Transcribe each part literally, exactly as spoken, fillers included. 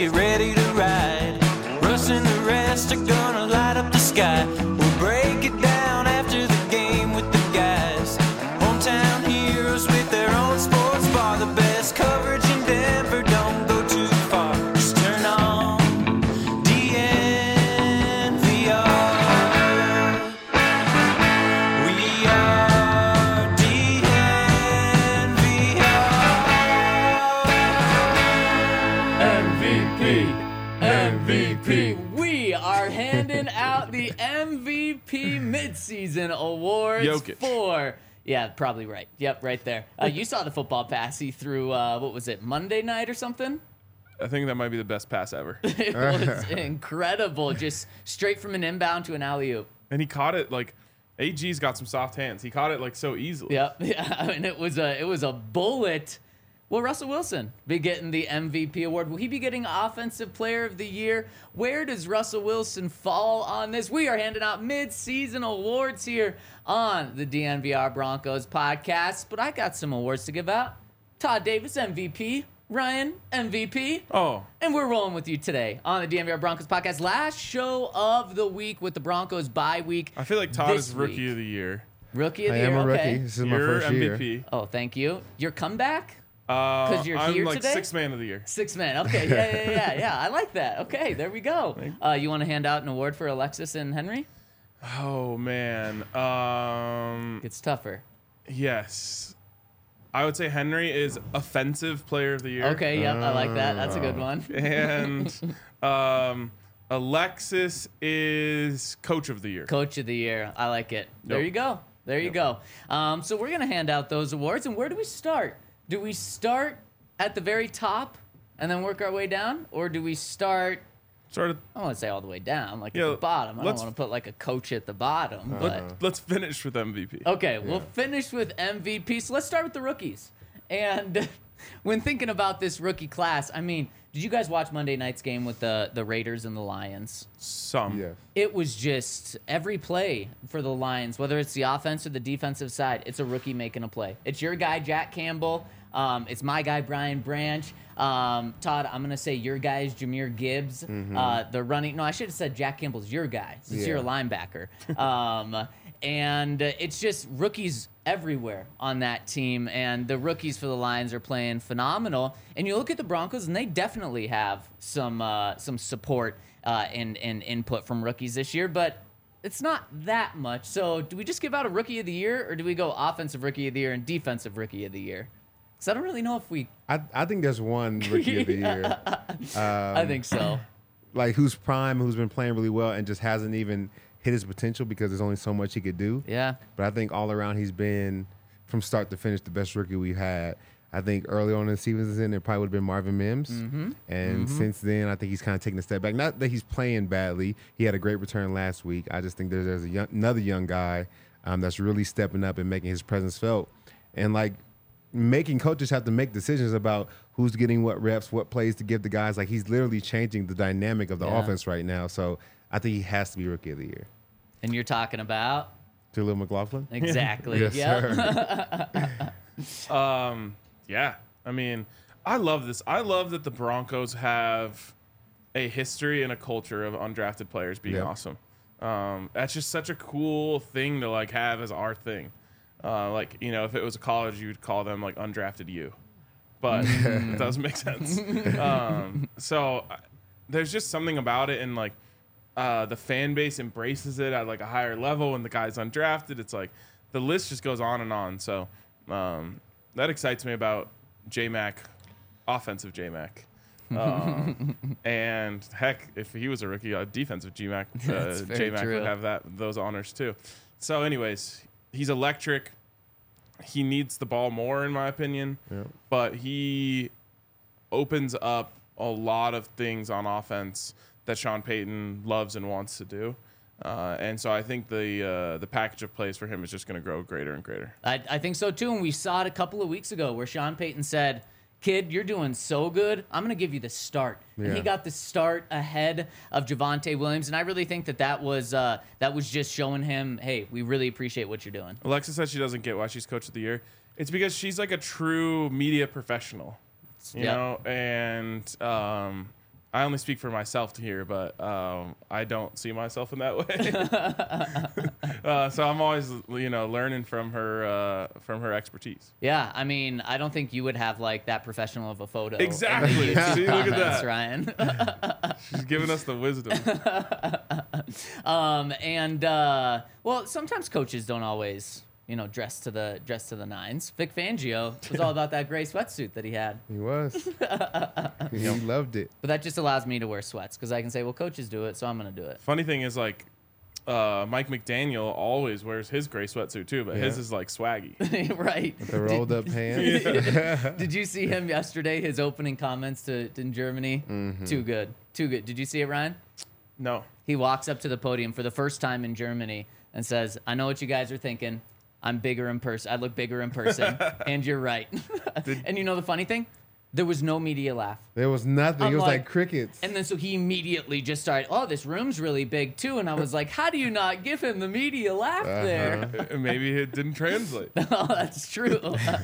get ready to ride. Russ and the rest are gonna light up the sky. We'll break it down after the game with the guys. Hometown heroes with their own sports bar. The best coverage in Denver, don't go too far. Just turn on D N V R. We are D N V R. M V P, M V P. We are handing out the M V P midseason awards Jokic. for. Yeah, probably right. Yep, right there. Uh, you saw the football pass he threw. Uh, what was it? Monday night or something? I think that might be the best pass ever. It was incredible. Just straight from an inbound to an alley oop. And he caught it like A G's got some soft hands. He caught it like so easily. Yep. Yeah. I mean, it was a it was a bullet. Will Russell Wilson be getting the M V P award? Will he be getting Offensive Player of the Year? Where does Russell Wilson fall on this? We are handing out mid-season awards here on the D N V R Broncos podcast, but I got some awards to give out. Todd Davis, M V P. Ryan, M V P. Oh, And we're rolling with you today on the D N V R Broncos podcast. Last show of the week with the Broncos bye week. I feel like Todd This is Rookie week. of the Year. Rookie of I the am year. a rookie. Okay. This is my You're first year. M V P. Oh, thank you. Your comeback? Uh, 'Cause you're I'm here like today? sixth man of the year. Six men. Okay, yeah, yeah, yeah, yeah. I like that. Okay, there we go. Uh, you want to hand out an award for Alexis and Henry? Oh man. Um. It's tougher. Yes. I would say Henry is Offensive Player of the Year. Okay, yep, I like that. That's a good one. And um, Alexis is Coach of the Year. Coach of the year. I like it. There Yep. you go. There you go. Um, so we're gonna hand out those awards, and where do we start? Do we start at the very top and then work our way down, or do we start? Sort of. I don't want to say all the way down, like Yeah, at the bottom. I don't let's- want to put like a coach at the bottom, but. Let, let's finish with M V P. Okay, we'll finish with M V P. So let's start with the rookies. And when thinking about this rookie class, I mean, did you guys watch Monday night's game with the, the Raiders and the Lions? Some. Yes. It was just every play for the Lions, whether it's the offense or the defensive side, it's a rookie making a play. It's your guy, Jack Campbell. Um, it's my guy, Brian Branch. Um, Todd, I'm going to say your guy is Jahmyr Gibbs. Uh, the running, no, I should have said Jack Campbell's your guy since Yeah. you're a linebacker. Um, and uh, it's just rookies everywhere on that team. And the rookies for the Lions are playing phenomenal. And you look at the Broncos, and they definitely have some uh, some support uh, and, and input from rookies this year. But it's not that much. So do we just give out a Rookie of the Year, or do we go Offensive Rookie of the Year and Defensive Rookie of the Year? Because I don't really know if we... I, I think there's one rookie of the year. I think so. Like who's prime, who's been playing really well and just hasn't even hit his potential because there's only so much he could do. Yeah. But I think all around he's been, from start to finish, the best rookie we've had. I think early on in the season, it probably would have been Marvin Mims. Mm-hmm. And since then, I think he's kind of taken a step back. Not that he's playing badly. He had a great return last week. I just think there's, there's a young, another young guy um, that's really stepping up and making his presence felt. And, like, making coaches have to make decisions about who's getting what reps, what plays to give the guys. Like, he's literally changing the dynamic of the Yeah. offense right now. So I think he has to be Rookie of the Year. And you're talking about... Jaleel McLaughlin? Exactly. Yes, Yep. sir. Um, yeah. I mean, I love this. I love that the Broncos have a history and a culture of undrafted players being Yep. awesome. Um, that's just such a cool thing to like have as our thing. Uh, like, you know, if it was a college, you would call them like undrafted U, but it doesn't make sense. Um, so uh, there's just something about it, and like uh, the fan base embraces it at like a higher level. When the guy's undrafted, it's like the list just goes on and on. So um, that excites me about J-Mac, offensive J-Mac. Um, and heck, if he was a rookie, uh, defensive G-Mac, uh, That's very J-Mac true. would have that those honors too. So, anyways, he's electric. He needs the ball more, in my opinion, Yep. but he opens up a lot of things on offense that Sean Payton loves and wants to do. Uh, and so I think the uh, the package of plays for him is just going to grow greater and greater. I, I think so too, and we saw it a couple of weeks ago where Sean Payton said, "Kid, you're doing so good. I'm going to give you the start." And he Yeah. got the start ahead of Javonte Williams, and I really think that that was uh, that was just showing him, "Hey, we really appreciate what you're doing." Alexa said she doesn't get why she's coach of the year. It's because she's like a true media professional, you Yeah. know, and um, I only speak for myself here, but um, I don't see myself in that way. uh, so I'm always, you know, learning from her uh, from her expertise. Yeah, I mean, I don't think you would have like that professional of a photo. Exactly. In the YouTube See, look at comments, that. Ryan. She's giving us the wisdom. um, and uh, well, sometimes coaches don't always, you know, dress to the dress to the nines. Vic Fangio was all about that gray sweatsuit that he had. He was. He loved it. But that just allows me to wear sweats because I can say, well, coaches do it, so I'm going to do it. Funny thing is, like, uh, Mike McDaniel always wears his gray sweatsuit too, but Yeah. his is like swaggy. Right. The rolled up pants. Did you see him yesterday? His opening comments to in Germany? Mm-hmm. Too good. Too good. Did you see it, Ryan? No. He walks up to the podium for the first time in Germany and says, I know what you guys are thinking. I'm bigger in person. I look bigger in person. And you're right. And you know the funny thing? There was no media laugh. There was nothing. I'm it was like- like, crickets. And then so he immediately just started, oh, this room's really big too. And I was like, how do you not give him the media laugh there? Uh, Maybe it didn't translate. Oh, that's true.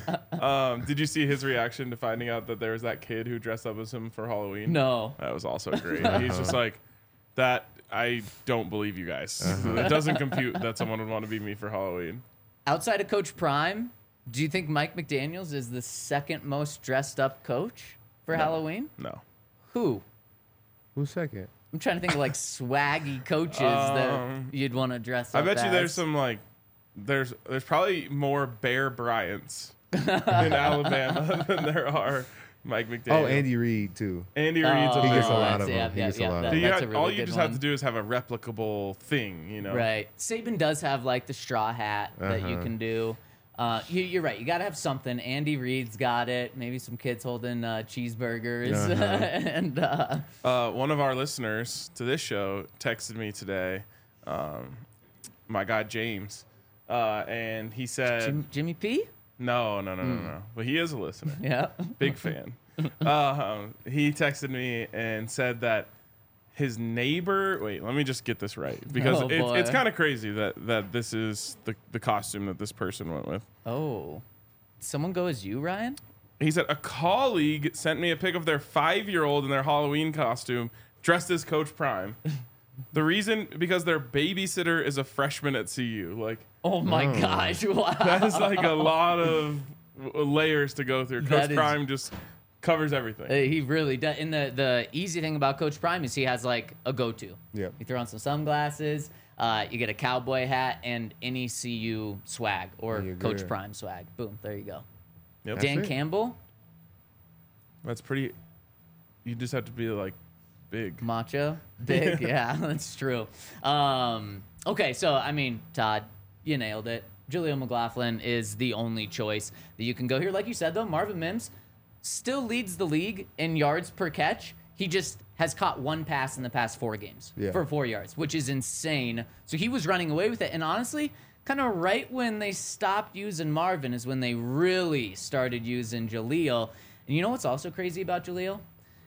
Um, did you see his reaction to finding out that there was that kid who dressed up as him for Halloween? No. That was also great. He's just like, that, I don't believe you guys. It doesn't compute that someone would want to be me for Halloween. Outside of Coach Prime, do you think Mike McDaniels is the second most dressed up coach for Halloween? No. Who? Who's second? I'm trying to think of like swaggy coaches Um, that you'd want to dress I up bet you as. there's some like, there's there's probably more Bear Bryants in Alabama than there are Mike McDaniel. Oh, Andy Reid too. Andy Reid's Oh, a He big gets a one. lot of yeah, them. He yeah, gets a yeah, lot that- of So them. you That's have- a really all you good just have one. to do is have a replicable thing, you know. Right. Saban does have like the straw hat that you Uh-huh. can do. Uh, you, you're right. You got to have something. Andy Reid's got it. Maybe some kids holding uh, cheeseburgers. Uh-huh. and uh, Uh, one of our listeners to this show texted me today, um, my guy James, uh, and he said, Jim, Jimmy P? no, no, no, no, no. But he is a listener. Yeah. Big fan. um, he texted me and said that his neighbor. Wait, let me just get this right because Oh, it's, boy. it's kind of crazy that that this is the the costume that this person went with. Oh. Someone go as you, Ryan? He said a colleague sent me a pic of their five-year-old in their Halloween costume dressed as Coach Prime. The reason because their babysitter is a freshman at C U. Like Oh my gosh. Wow. that is like a lot of layers to go through. Coach That is- Prime just covers everything. Uh, He really does. And the, the easy thing about Coach Prime is he has like a go-to. Yep. You throw on some sunglasses, uh, you get a cowboy hat, and any C U swag or You're Coach good. Prime swag. Boom, there you go. Yep. Dan it. Campbell, That's pretty. You just have to be like big. macho, big. Yeah, that's true. Um, okay, so I mean, Todd, you nailed it. Julio McLaughlin is the only choice that you can go here. Like you said, though, Marvin Mims still leads the league in yards per catch. He just has caught one pass in the past four games Yeah. for four yards, which is insane. So he was running away with it. And honestly, kind of right when they stopped using Marvin is when they really started using Jaleel. And you know what's also crazy about Jaleel?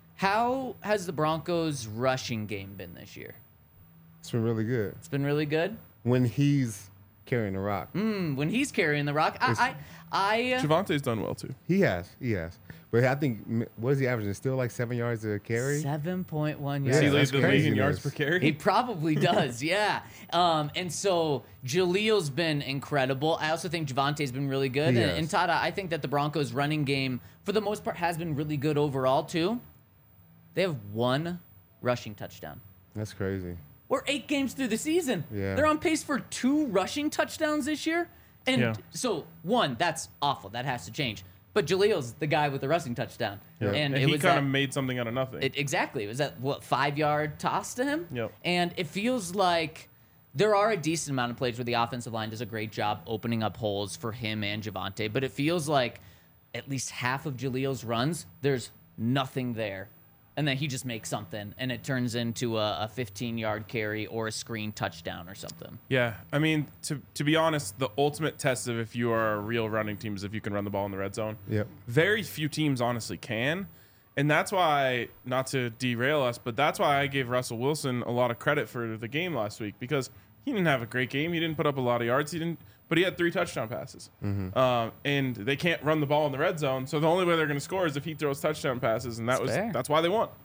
How has the Broncos' rushing game been this year? It's been really good. It's been really good. When he's carrying the rock. Hmm, when he's carrying the rock, I, I, I Javante's done well too. He has. He has. But I think, m- what is he averaging? Still like seven yards a carry? seven point one Yeah, Does he yards. lead that's the league in yards per craziness. carry? He probably does, yeah. Um, and so Jaleel's been incredible. I also think Javante's been really good. He And, has. and Tada, I think that the Broncos' running game, for the most part, has been really good overall, too. They have one rushing touchdown. That's crazy. We're eight games through the season. Yeah. They're on pace for two rushing touchdowns this year. And Yeah. so, one, that's awful. That has to change. But Jaleel's the guy with the rushing touchdown. Yeah. And, And it he was kind that- of made something out of nothing. It, exactly. It was that, what, five-yard toss to him? Yep. And it feels like there are a decent amount of plays where the offensive line does a great job opening up holes for him and Javante, but it feels like at least half of Jaleel's runs, there's nothing there. And then he just makes something, and it turns into a fifteen-yard carry or a screen touchdown or something. Yeah, I mean, to to be honest, the ultimate test of if you are a real running team is if you can run the ball in the red zone. Yep. Very few teams honestly can, and that's why, not to derail us, but that's why I gave Russell Wilson a lot of credit for the game last week because he didn't have a great game. He didn't put up a lot of yards. He didn't, but he had three touchdown passes. Um, and they can't run the ball in the red zone, so the only way they're going to score is if he throws touchdown passes, and that That's was fair. that's why they won.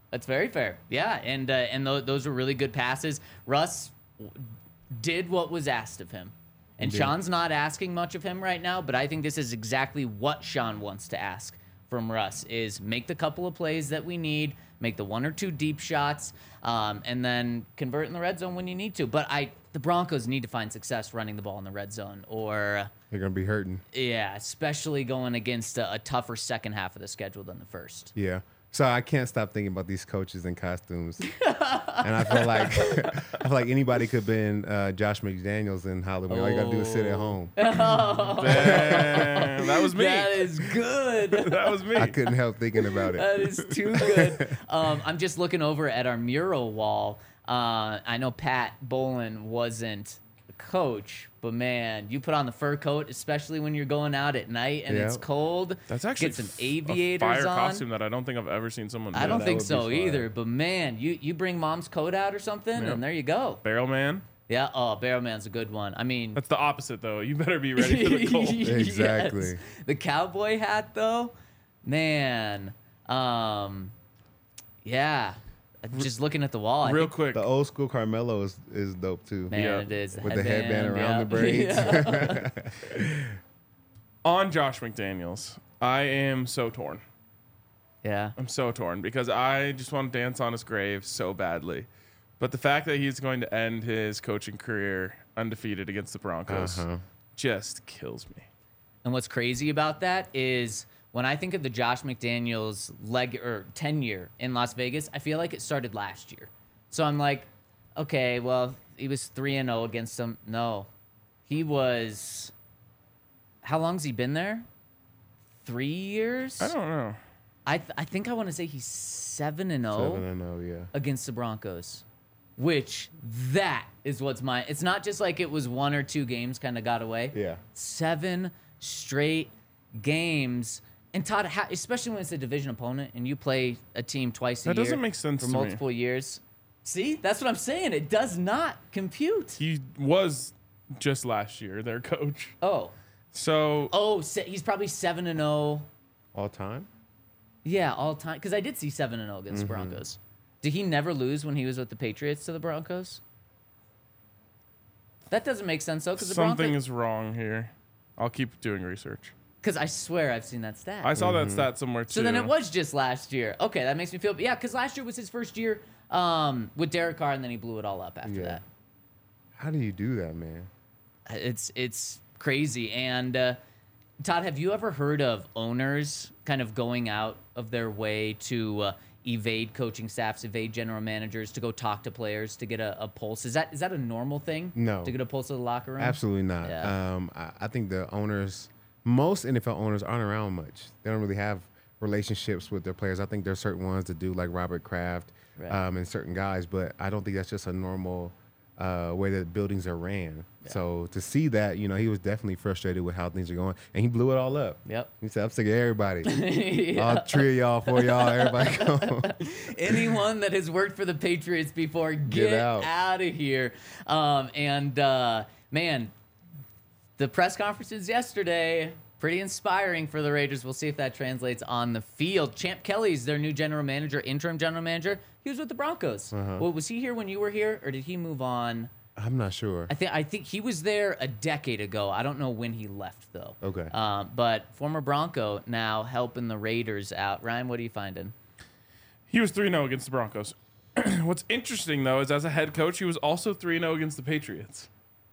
That's very fair. Yeah, and uh, and th- those were really good passes. Russ w- did what was asked of him. And Indeed. Sean's not asking much of him right now, but I think this is exactly what Sean wants to ask from Russ is make the couple of plays that we need, make the one or two deep shots, um, and then convert in the red zone when you need to. But I the Broncos need to find success running the ball in the red zone or They're going to be hurting. yeah, especially going against a, a tougher second half of the schedule than the first. Yeah. So I can't stop thinking about these coaches in costumes, and I feel like I feel like anybody could have been uh, Josh McDaniels in Hollywood. All you got to do is sit at home. Damn, that was me. That is good. That was me. I couldn't help thinking about it. That is too good. Um, I'm just looking over at our mural wall. Uh, I know Pat Bolin wasn't the coach, but man, you put on the fur coat, especially when you're going out at night and Yeah. it's cold. That's actually get some f- aviators a fire on. costume that I don't think I've ever seen someone do. I don't that think would be so fire. either. But man, you you bring mom's coat out or something, Yeah. and there you go. Barrel Man. Yeah. Oh, Barrowman's a good one. I mean, That's the opposite, though. You better be ready for the cold. Exactly. Yes. The cowboy hat, though, man. Um, yeah. Just looking at the wall. I Real think, quick. The old school Carmelo is, is dope too. man, Yeah. it is With the headband around yeah. the braids. Yeah. On Josh McDaniels, I am so torn. Yeah. I'm so torn because I just want to dance on his grave so badly. But the fact that he's going to end his coaching career undefeated against the Broncos Uh-huh. just kills me. And what's crazy about that is when I think of the Josh McDaniels leg or tenure in Las Vegas, I feel like it started last year. So I'm like, okay, well, he was three and oh against them. No. He was how long's he been there? Three years? I don't know. I th- I think I want to say he's seven and Seven oh and oh, yeah. against the Broncos. Which that is what's my it's not just like it was one or two games kind of got away. Yeah. Seven straight games. And Todd, how, especially when it's a division opponent and you play a team twice a That year doesn't make sense for to me. multiple years. See, that's what I'm saying. It does not compute. He was just last year their coach. Oh, So oh, se- he's probably seven and zero. All time? Yeah, all time. Because I did see seven and zero against Mm-hmm. the Broncos. Did he never lose when he was with the Patriots to the Broncos? That doesn't make sense though, because the something Broncos. is wrong here. I'll keep doing research. Because I swear I've seen that stat. I saw that stat somewhere too. So then it was just last year. Okay, that makes me feel. Yeah, because last year was his first year um, with Derek Carr, and then he blew it all up after Yeah. that. How do you do that, man? It's it's crazy. And uh, Todd, have you ever heard of owners kind of going out of their way to uh, evade coaching staffs, evade general managers, to go talk to players to get a, a pulse? Is that is that a normal thing? No. To get a pulse of the locker room? Absolutely not. Yeah. Um, I, I think the owners, most N F L owners aren't around much. They don't really have relationships with their players. I think there's certain ones that do, like Robert Kraft Right. um, and certain guys, but I don't think that's just a normal uh, way that buildings are ran. So to see that, you know, he was definitely frustrated with how things are going, and he blew it all up. Yep. He said, I'm sick of everybody. Yeah. All three of y'all, four of y'all, everybody go. Anyone that has worked for the Patriots before, get, Get out. out of here. Um, and uh, man, the press conferences yesterday, pretty inspiring for the Raiders. We'll see if that translates on the field. Champ Kelly's their new general manager, interim general manager. He was with the Broncos. Uh-huh. Well, was he here when you were here, or did he move on? I'm not sure. I think I think he was there a decade ago. I don't know when he left though. Okay. Um, but former Bronco now helping the Raiders out. Ryan, what are you finding? He was three and oh against the Broncos. What's interesting though is as a head coach, he was also three and oh against the Patriots.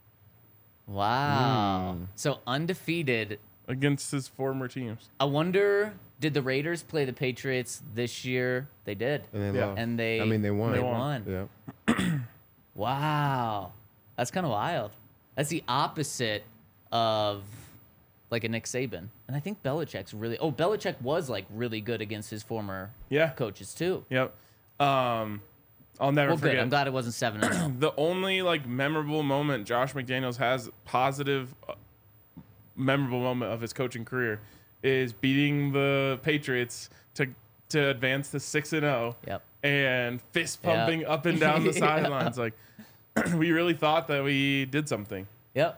Wow. Hmm. So undefeated. Against his former teams. I wonder, did the Raiders play the Patriots this year? They did. And they Yeah. lost. And they I mean, they won. They They won. won. Yeah. Wow. That's kind of wild. That's the opposite of like a Nick Saban. And I think Belichick's really Oh, Belichick was like really good against his former Yeah. coaches too. Yep. Um, I'll never Well, forget. good. I'm glad it wasn't seven and oh. The only like memorable moment Josh McDaniels has, positive, uh, memorable moment of his coaching career, is beating the Patriots to to advance to six and zero. Yep. And fist Yeah. pumping up and down the Yeah. sidelines. Like we really thought that we did something. Yep.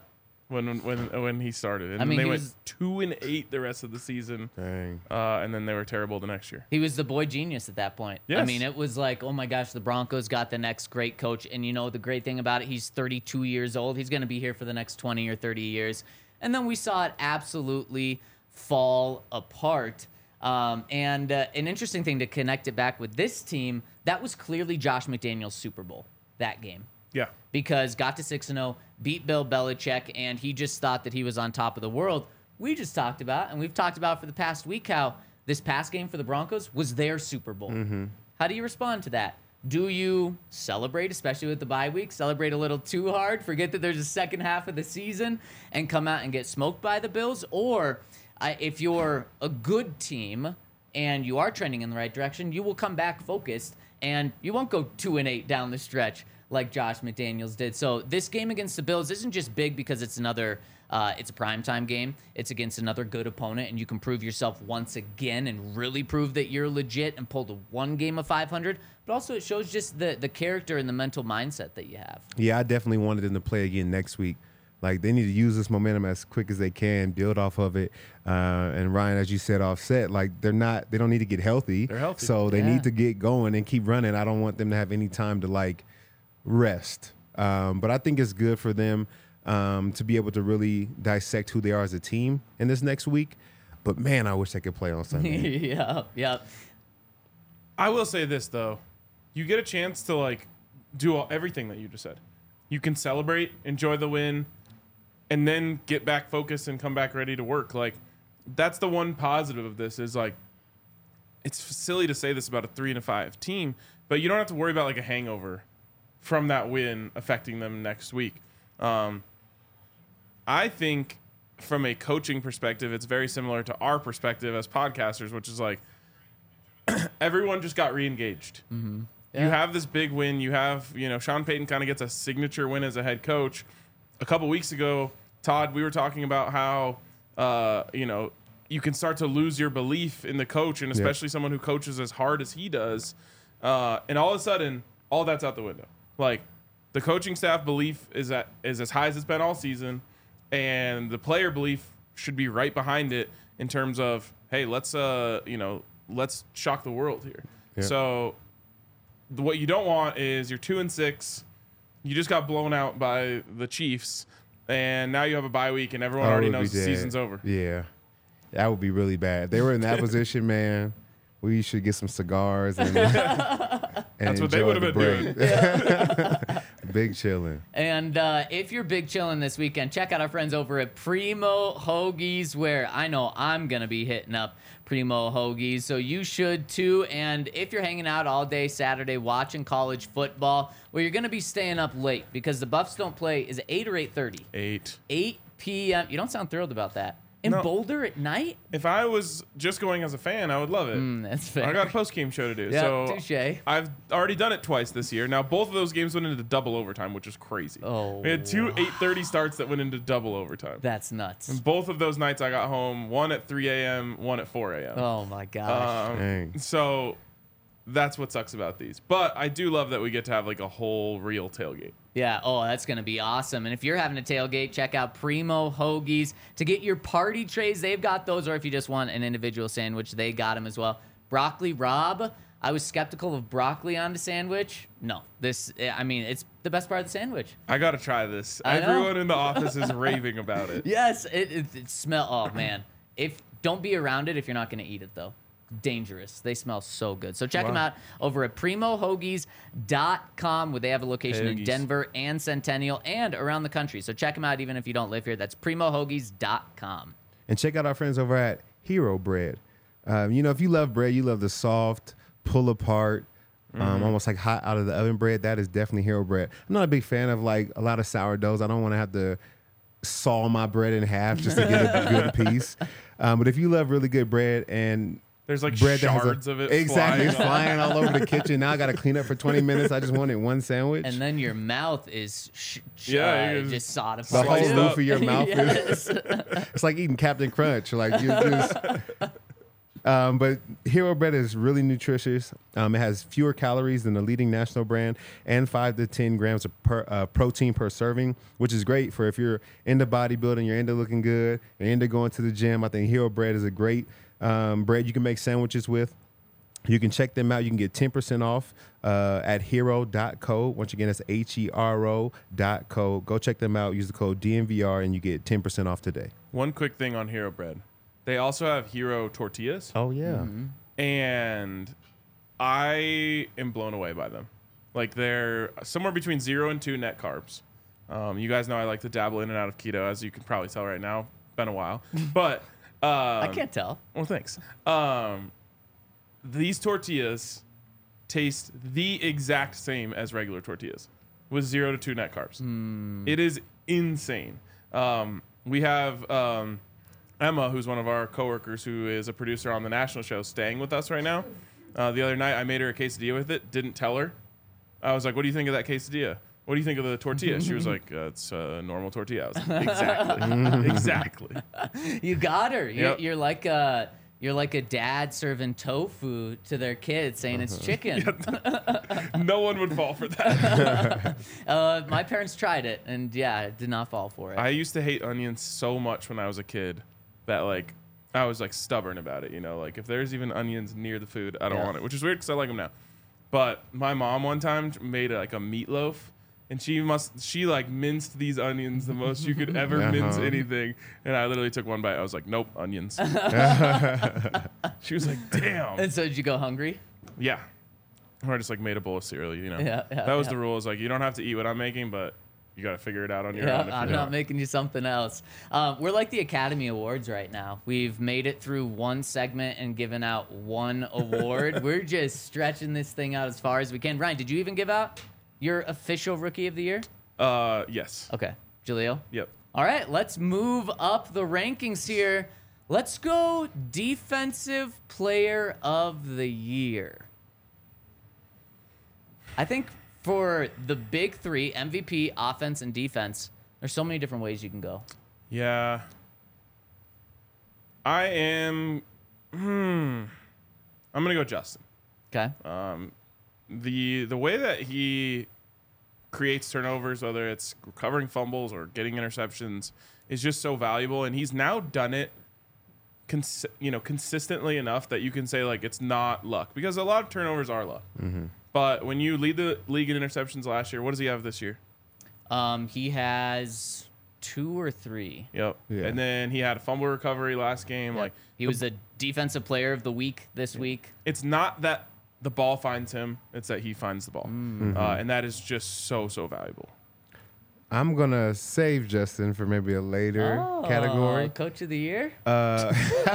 when when when he started, and I then mean, they he went was- two and eight the rest of the season, Dang. uh, and then they were terrible the next year. He was the boy genius at that point. I Yes. mean, it was like, oh my gosh, the Broncos got the next great coach. And you know, the great thing about it, he's thirty-two years old. He's going to be here for the next twenty or thirty years. And then we saw it absolutely fall apart. Um, and uh, an interesting thing to connect it back with this team, that was clearly Josh McDaniels' Super Bowl, that game. Yeah, Because got to six and oh, beat Bill Belichick, and he just thought that he was on top of the world. We just talked about, and we've talked about for the past week, how this past game for the Broncos was their Super Bowl. Mm-hmm. How do you respond to that? Do you celebrate, especially with the bye week, celebrate a little too hard, forget that there's a second half of the season, and come out and get smoked by the Bills? Or uh, if you're a good team and you are trending in the right direction, you will come back focused, and you won't go two and eight down the stretch like Josh McDaniels did. So this game against the Bills isn't just big because it's another, uh, it's a primetime game. It's against another good opponent, and you can prove yourself once again and really prove that you're legit and pull the one game of five hundred. But also it shows just the, the character and the mental mindset that you have. Yeah, I definitely wanted them to play again next week. Like, they need to use this momentum as quick as they can, build off of it. Uh, and Ryan, as you said, offset, like they're not, they don't need to get healthy. They're healthy. So they Yeah. need to get going and keep running. I don't want them to have any time to like rest. Um, but I think it's good for them um, to be able to really dissect who they are as a team in this next week. But man, I wish they could play on Sunday. yeah, yeah. I will say this though, you get a chance to like do all, everything that you just said. You can celebrate, enjoy the win, and then get back focused and come back ready to work. Like, that's the one positive of this is like, it's silly to say this about a three and a five team, but you don't have to worry about like a hangover from that win affecting them next week. Um, I think from a coaching perspective, it's very similar to our perspective as podcasters, which is like everyone just got re-engaged. Yeah. You have this big win. You have, you know, Sean Payton kind of gets a signature win as a head coach. A couple weeks ago, Todd, we were talking about how, uh, you know, you can start to lose your belief in the coach, and especially someone who coaches as hard as he does. Uh, and all of a sudden, all that's out the window. Like, the coaching staff belief is at, is as high as it's been all season, and the player belief should be right behind it in terms of, hey, let's, uh, you know, let's shock the world here. Yeah. So the, what you don't want is you're two and six. You just got blown out by the Chiefs, and now you have a bye week, and everyone Oh, already it would knows be the dead. season's over. Yeah. That would be really bad. If they were in that position, man, we should get some cigars and, and That's what they enjoy would the have been break. Big chilling. And uh, if you're big chilling this weekend, check out our friends over at Primo Hoagies, where I know I'm going to be hitting up Primo Hoagies. So you should too. And if you're hanging out all day Saturday watching college football, well, you're going to be staying up late because the Buffs don't play. Is it eight or eight thirty? Eight. eight p.m. You don't sound thrilled about that. In No. Boulder at night? If I was just going as a fan, I would love it. Mm, that's fair. I got a post game show to do. Yeah, so touche. I've already done it twice this year. Now both of those games went into double overtime, which is crazy. Oh. We had two eight thirty starts that went into double overtime. That's nuts. Both of those nights I got home, one at three a.m., one at four a.m. Oh, my gosh. Um, Dang. so that's what sucks about these. But I do love that we get to have like a whole real tailgate. Yeah, oh, that's going to be awesome. And if you're having a tailgate, check out Primo Hoagies to get your party trays. They've got those, or if you just want an individual sandwich, they got them as well. Broccoli Rob, I was skeptical of broccoli on the sandwich. No, this, I mean, it's the best part of the sandwich. I got to try this. I know. Everyone in the office is raving about it. Yes, it, it, it smell. Oh man, if don't be around it if you're not going to eat it though. Dangerous. They smell so good. So check Wow. them out over at primo hoagies dot com, where they have a location in Hoagies. Denver and Centennial and around the country. So check them out even if you don't live here. That's primo hoagies dot com. And check out our friends over at Hero Bread. Um, you know, if you love bread, you love the soft, pull apart, um, almost like hot out of the oven bread. That is definitely Hero Bread. I'm not a big fan of like a lot of sourdoughs. I don't want to have to saw my bread in half just to get a good piece. Um, but if you love really good bread and There's like bread that has shards a, of it exactly flying, flying all over the kitchen. Now I got to clean up for twenty minutes. I just wanted one sandwich. And then your mouth is sh- sh- Yeah, uh, you just the sodified. whole sliced roof up. of your mouth Yes. is it's like eating Captain Crunch. Like you just Um, but Hero Bread is really nutritious. Um, it has fewer calories than the leading national brand and five to ten grams of per, uh, protein per serving, which is great for if you're into bodybuilding, you're into looking good, you're into going to the gym. I think Hero Bread is a great um, bread you can make sandwiches with. You can check them out. You can get ten percent off uh, at hero dot co. Once again, that's H E R O dot co. Go check them out. Use the code D N V R and you get ten percent off today. One quick thing on Hero Bread. They also have Hero tortillas. Oh, yeah. Mm-hmm. And I am blown away by them. Like, they're somewhere between zero and two net carbs. Um, you guys know I like to dabble in and out of keto, as you can probably tell right now. Been a while. But um, I can't tell. Well, thanks. Um, these tortillas taste the exact same as regular tortillas with zero to two net carbs. Mm. It is insane. Um, we have um, Emma, who's one of our coworkers, who is a producer on the national show, staying with us right now. Uh, the other night, I made her a quesadilla with it. Didn't tell her. I was like, "What do you think of that quesadilla? What do you think of the tortilla?" She was like, uh, "It's a normal tortilla." I was like, exactly, exactly. You got her. You're, Yep. you're like a you're like a dad serving tofu to their kids, saying it's chicken. No one would fall for that. uh, my parents tried it, and yeah, it did not fall for it. I used to hate onions so much when I was a kid that like I was like stubborn about it. You know, like if there's even onions near the food, I don't Yeah. want it, which is weird because I like them now. But my mom one time made like a meatloaf, and she must she like minced these onions the most you could ever Uh-huh. mince anything. And I literally took one bite. I was like, nope, onions. She was like, damn. and so did you go hungry? Yeah. Or I just like made a bowl of cereal, you know. Yeah, yeah, that was yeah. the rule. Is like you don't have to eat what I'm making, but you got to figure it out on your Yeah, own. if I'm you not don't. making you something else. Um, we're like the Academy Awards right now. We've made it through one segment and given out one award. We're just stretching this thing out as far as we can. Ryan, did you even give out your official Rookie of the Year? Uh, yes. Okay. Jaleel? Yep. All right, let's move up the rankings here. Let's go Defensive Player of the Year. I think for the big three, M V P, offense, and defense, there's so many different ways you can go. Yeah. I am. Hmm. I'm gonna go Justin. Okay. Um, the the way that he creates turnovers, whether it's recovering fumbles or getting interceptions, is just so valuable, and he's now done it, cons- you know, consistently enough that you can say like it's not luck, because a lot of turnovers are luck. Mm-hmm. But when you lead the league in interceptions last year, what does he have this year? Um, he has two or three. Yep. Yeah. And then he had a fumble recovery last game. Like He was the Defensive Player of the Week this week. it's not that the ball finds him; it's that he finds the ball, Mm. uh, and that is just so so valuable. I'm going to save Justin for maybe a later Oh, category. Coach of the Year? Uh,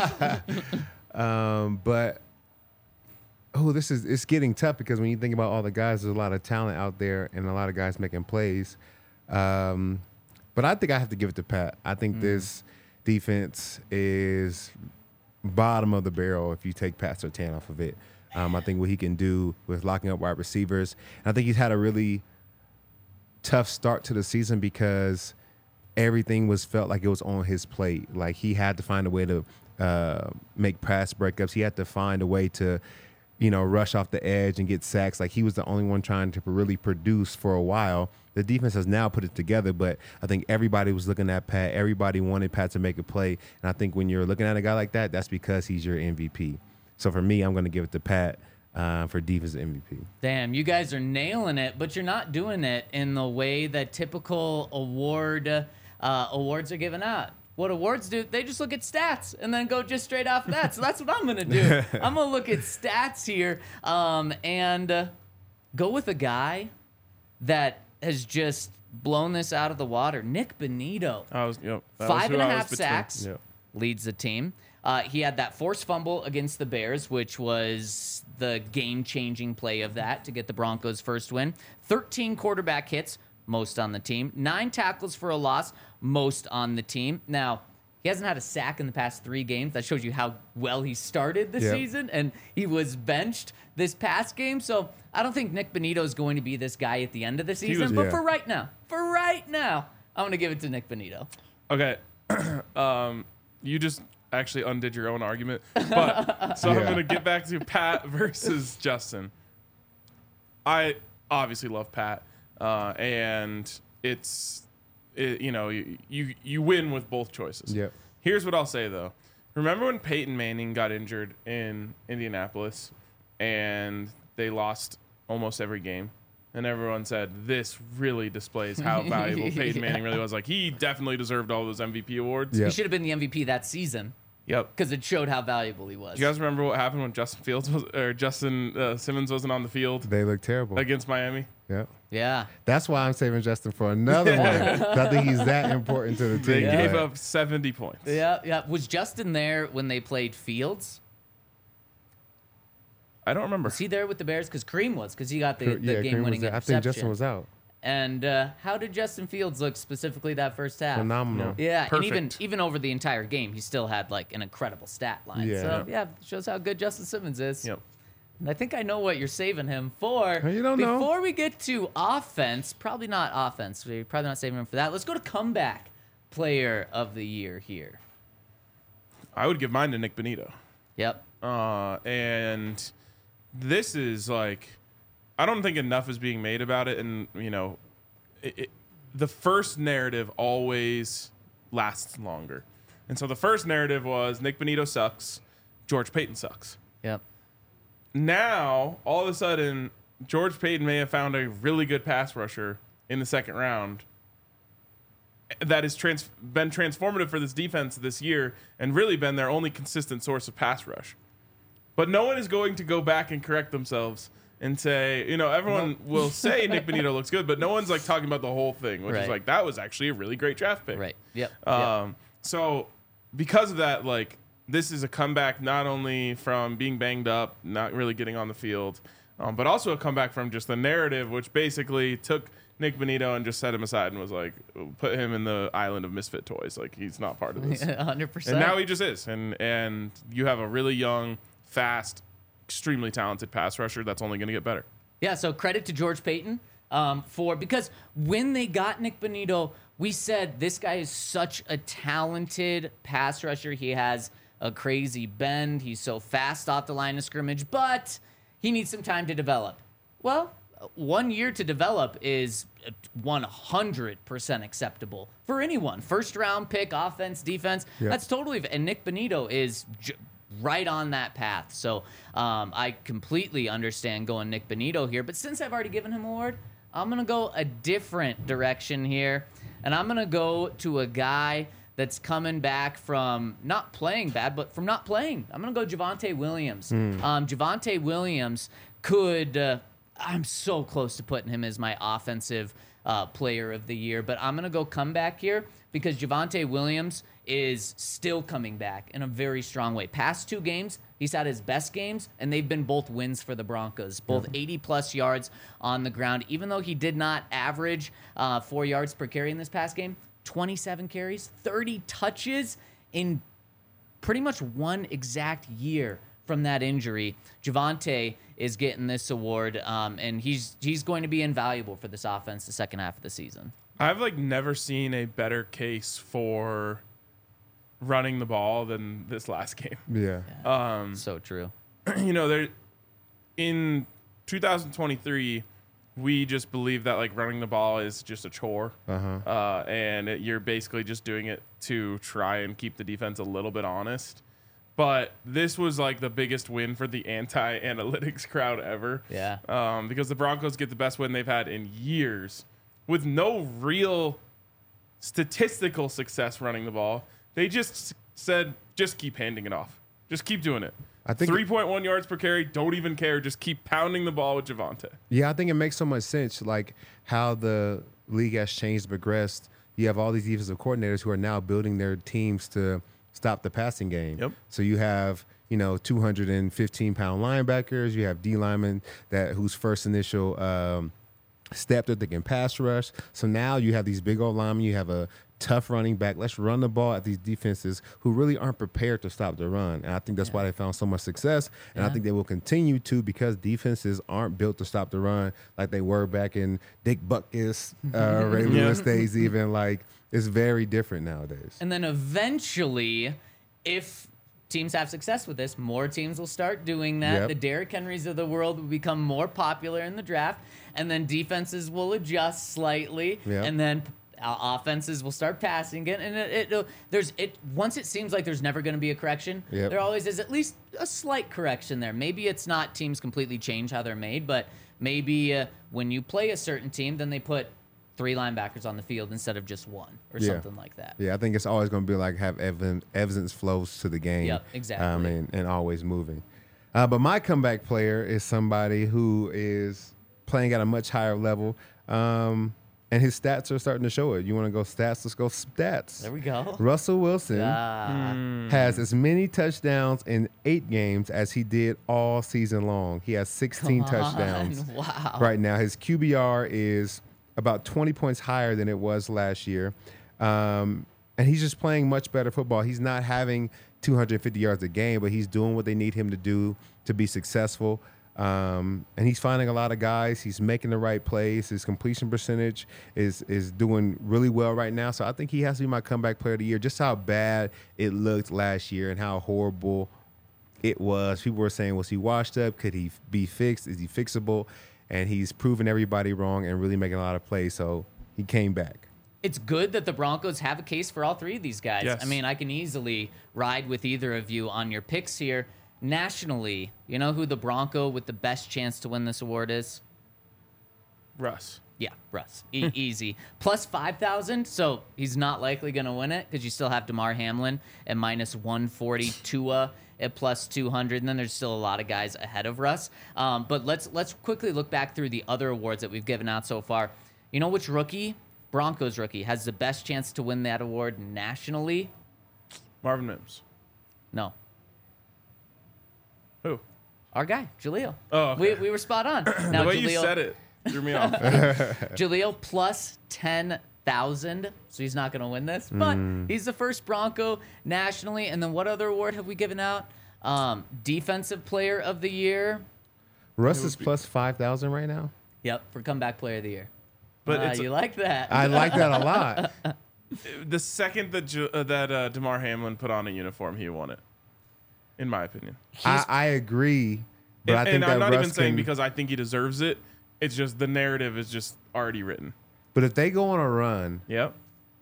um, but oh, this is it's getting tough because when you think about all the guys, there's a lot of talent out there and a lot of guys making plays. Um, but I think I have to give it to Pat. I think this defense is bottom of the barrel if you take Pat Surtain off of it. Um, I think what he can do with locking up wide receivers. And I think he's had a really tough start to the season because everything was felt like it was on his plate. Like he had to find a way to uh, make pass breakups. He had to find a way to, you know, rush off the edge and get sacks. Like he was the only one trying to really produce for a while. The defense has now put it together, but I think everybody was looking at Pat. Everybody wanted Pat to make a play. And I think when you're looking at a guy like that, that's because he's your M V P. So for me, I'm going to give it to Pat uh, for defense M V P. Damn, you guys are nailing it, but you're not doing it in the way that typical award uh, awards are given out. What awards do, they just look at stats and then go just straight off that. So that's what I'm going to do. I'm going to look at stats here um, and uh, go with a guy that has just blown this out of the water. Nick Bonito. I was yep. that was Five who and a I was half between. sacks, Yep. leads the team. Uh, he had that forced fumble against the Bears, which was the game-changing play of that to get the Broncos' first win. thirteen quarterback hits, most on the team. Nine tackles for a loss, most on the team. Now, he hasn't had a sack in the past three games. That shows you how well he started the Yep. season, and he was benched this past game. So I don't think Nick Bonito is going to be this guy at the end of the season. was- but Yeah. for right now, for right now, I'm going to give it to Nick Bonito. Okay. um, you just actually undid your own argument. But so I'm Yeah. going to get back to Pat versus Justin. I obviously love Pat, uh, and it's it, you know you, you you win with both choices. Yep. Here's what I'll say though. Remember when Peyton Manning got injured in Indianapolis, and they lost almost every game? And everyone said, this really displays how valuable Peyton Yeah. Manning really was. Like, he definitely deserved all those M V P awards. Yeah. He should have been the M V P that season Yep. because it showed how valuable he was. Do you guys remember what happened when Justin Fields was, or Justin uh, Simmons wasn't on the field They look terrible. against Miami? Yeah. Yeah. That's why I'm saving Justin for another one. I think he's that important to the team. They gave but- up seventy points. Yeah. Yeah. Was Justin there when they played Fields? I don't remember. Was he there with the Bears? Because Kareem was, because he got the, the yeah, Kareem was game-winning there. I interception. think Justin was out. And uh, how did Justin Fields look specifically that first half? Phenomenal. Yeah, and even Perfect. even over the entire game, he still had like an incredible stat line. Yeah. So yeah, shows how good Justin Simmons is. Yep. And I think I know what you're saving him for. You don't know. Before we get to offense, probably not offense. We're probably not saving him for that. Let's go to comeback player of the year here. I would give mine to Nick Bonito. Yep. Uh, and this is like, I don't think enough is being made about it. And, you know, it, it, the first narrative always lasts longer. And so the first narrative was Nick Bonito sucks, George Payton sucks. Yep. Now, all of a sudden, George Payton may have found a really good pass rusher in the second round that has trans- been transformative for this defense this year and really been their only consistent source of pass rush. But no one is going to go back and correct themselves and say, you know, everyone will say Nick Bonito looks good, but no one's like talking about the whole thing, which Right. is like, that was actually a really great draft pick. Right. Yep. Um, yep. So because of that, like, this is a comeback not only from being banged up, not really getting on the field, um, but also a comeback from just the narrative, which basically took Nick Bonito and just set him aside and was like, put him in the island of misfit toys. Like, he's not part of this. one hundred percent. And now he just is. And and you have a really young, fast, extremely talented pass rusher that's only going to get better. Yeah, so credit to George Payton um, for because when they got Nick Bonito, we said this guy is such a talented pass rusher. He has a crazy bend. He's so fast off the line of scrimmage, but he needs some time to develop. Well, one year to develop is one hundred percent acceptable for anyone. First round pick, offense, defense. Yeah. That's totally. And Nick Bonito is j- right on that path. So um, I completely understand going Nick Bonito here. But since I've already given him an award, I'm going to go a different direction here. And I'm going to go to a guy that's coming back from not playing bad, but from not playing. I'm going to go Javonte Williams. Um, Javonte Williams could... Uh, I'm so close to putting him as my offensive uh, player of the year, but I'm going to go comeback here because Javonte Williams is still coming back in a very strong way. Past two games, he's had his best games, and they've been both wins for the Broncos, both eighty-plus yards on the ground. Even though he did not average uh, four yards per carry in this past game, twenty-seven carries, thirty touches in pretty much one exact year from that injury. Javonte is getting this award, um, and he's he's going to be invaluable for this offense the second half of the season. I've like never seen a better case for running the ball than this last game. Yeah. Um, So true. you know, there in two thousand twenty-three, we just believe that like running the ball is just a chore, Uh-huh. uh, and it, you're basically just doing it to try and keep the defense a little bit honest. But this was like the biggest win for the anti-analytics crowd ever. Yeah. Um, because the Broncos get the best win they've had in years with no real statistical success running the ball. They just said, just keep handing it off. Just keep doing it. I think- three point one yards per carry, don't even care. Just keep pounding the ball with Javonte. Yeah, I think it makes so much sense, like how the league has changed, progressed. You have all these defensive coordinators who are now building their teams to stop the passing game. Yep. So you have, you know, two hundred fifteen pound linebackers. You have D linemen that whose first initial um, step that they can pass rush. So now you have these big old linemen. You have a tough running back. Let's run the ball at these defenses who really aren't prepared to stop the run. And I think that's why they found so much success. And I Yeah. think they will continue to because defenses aren't built to stop the run like they were back in Dick Butkus, uh, Ray Lewis days even. Like, it's very different nowadays. And then eventually, if teams have success with this, more teams will start doing that. Yep. The Derrick Henrys of the world will become more popular in the draft, and then defenses will adjust slightly, Yep. and then uh, offenses will start passing it. And it, it it'll- there's it once it seems like there's never going to be a correction. Yep. There always is at least a slight correction there. Maybe it's not teams completely change how they're made, but maybe uh, when you play a certain team, then they put three linebackers on the field instead of just one or Yeah. something like that. Yeah, I think it's always going to be like have evidence, evidence flows to the game. Yep, exactly. Um, and, and always moving. Uh, but my comeback player is somebody who is playing at a much higher level, um, and his stats are starting to show it. You want to go stats? Let's go stats. There we go. Russell Wilson Ah. has as many touchdowns in eight games as he did all season long. He has sixteen Come on. touchdowns. Wow. Right now, his Q B R is about twenty points higher than it was last year. Um, and he's just playing much better football. He's not having two hundred fifty yards a game, but he's doing what they need him to do to be successful. Um, and he's finding a lot of guys. He's making the right plays. His completion percentage is is doing really well right now. So I think he has to be my comeback player of the year. Just how bad it looked last year and how horrible it was. People were saying, was he washed up? Could he be fixed? Is he fixable? And he's proven everybody wrong and really making a lot of plays. So he came back. It's good that the Broncos have a case for all three of these guys. Yes. I mean, I can easily ride with either of you on your picks here. Nationally, you know who the Bronco with the best chance to win this award is? Russ. Yeah, Russ. E- easy. Plus five thousand, so he's not likely going to win it because you still have DeMar Hamlin at minus one forty, Tua at plus two hundred, and then there's still a lot of guys ahead of Russ. Um, but let's let's quickly look back through the other awards that we've given out so far. You know which rookie, Broncos rookie, has the best chance to win that award nationally? Marvin Mims. No. Who? Our guy, Jaleel. Oh, okay. we, we were spot on. Now, the way Jaleel, you said it threw me off. Jaleel plus ten thousand, so he's not going to win this, but he's the first Bronco nationally. And then what other award have we given out? Um, Defensive Player of the Year. Russ is plus five thousand right now. Yep, for Comeback Player of the Year. But Ah, it's you like that? I like that a lot. the second that Ju- uh, that uh, DeMar Hamlin put on a uniform, he won it. In my opinion. I, I agree. But and I think and that I'm not Russ even saying can- because I think he deserves it. It's just the narrative is just already written. But if they go on a run Yep.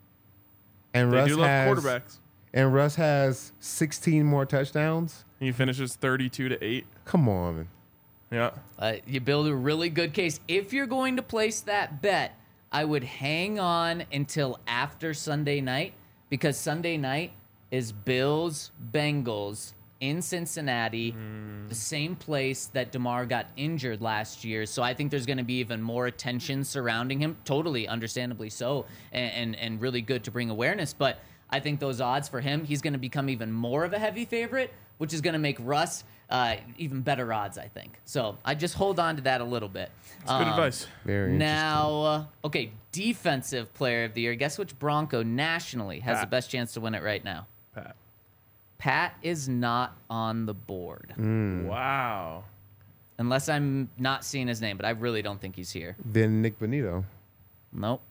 and They Russ do love has quarterbacks. and Russ has sixteen more touchdowns, He finishes thirty-two to eight. come on. Yeah. Uh, you build a really good case. If you're going to place that bet, I would hang on until after Sunday night because Sunday night is Bills Bengals in Cincinnati, the same place that DeMar got injured last year. So I think there's going to be even more attention surrounding him. Totally, understandably so, and, and and really good to bring awareness. But I think those odds for him, he's going to become even more of a heavy favorite, which is going to make Russ uh, even better odds, I think. So I just hold on to that a little bit. That's good Um, advice. Very Now, uh, okay, Defensive Player of the Year. Guess which Bronco nationally has Pat. the best chance to win it right now? Pat. Pat is not on the board. Mm. Wow. Unless I'm not seeing his name, but I really don't think he's here. Then Nick Bonito. Nope.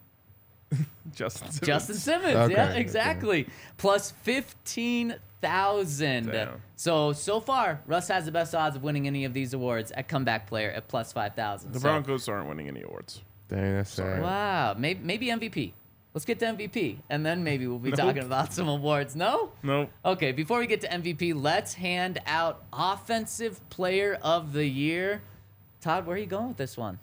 Justin Simmons. Justin Simmons. Okay, Yeah, okay. exactly. Plus fifteen thousand. Damn. So, so far, Russ has the best odds of winning any of these awards at Comeback Player at plus five thousand. The So- Broncos aren't winning any awards. Dang, that's sad. Wow. Maybe, maybe M V P. Let's get to M V P, and then maybe we'll be Nope. talking about some awards. No? Nope. Okay, before we get to M V P, let's hand out Offensive Player of the Year. Todd, where are you going with this one?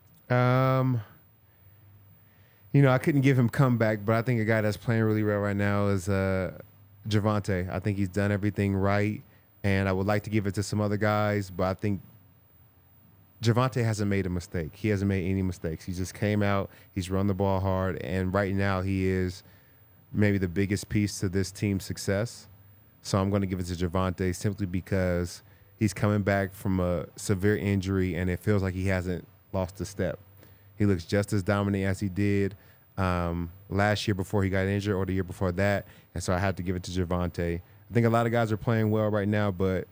Um, you know, I couldn't give him comeback, but I think a guy that's playing really well right now is uh, Javonte. I think he's done everything right, and I would like to give it to some other guys, but I think Javonte hasn't made a mistake. He hasn't made any mistakes. He just came out, he's run the ball hard, and right now he is maybe the biggest piece to this team's success. So I'm going to give it to Javonte simply because he's coming back from a severe injury, and it feels like he hasn't lost a step. He looks just as dominant as he did um, last year before he got injured or the year before that, and so I had to give it to Javonte. I think a lot of guys are playing well right now, but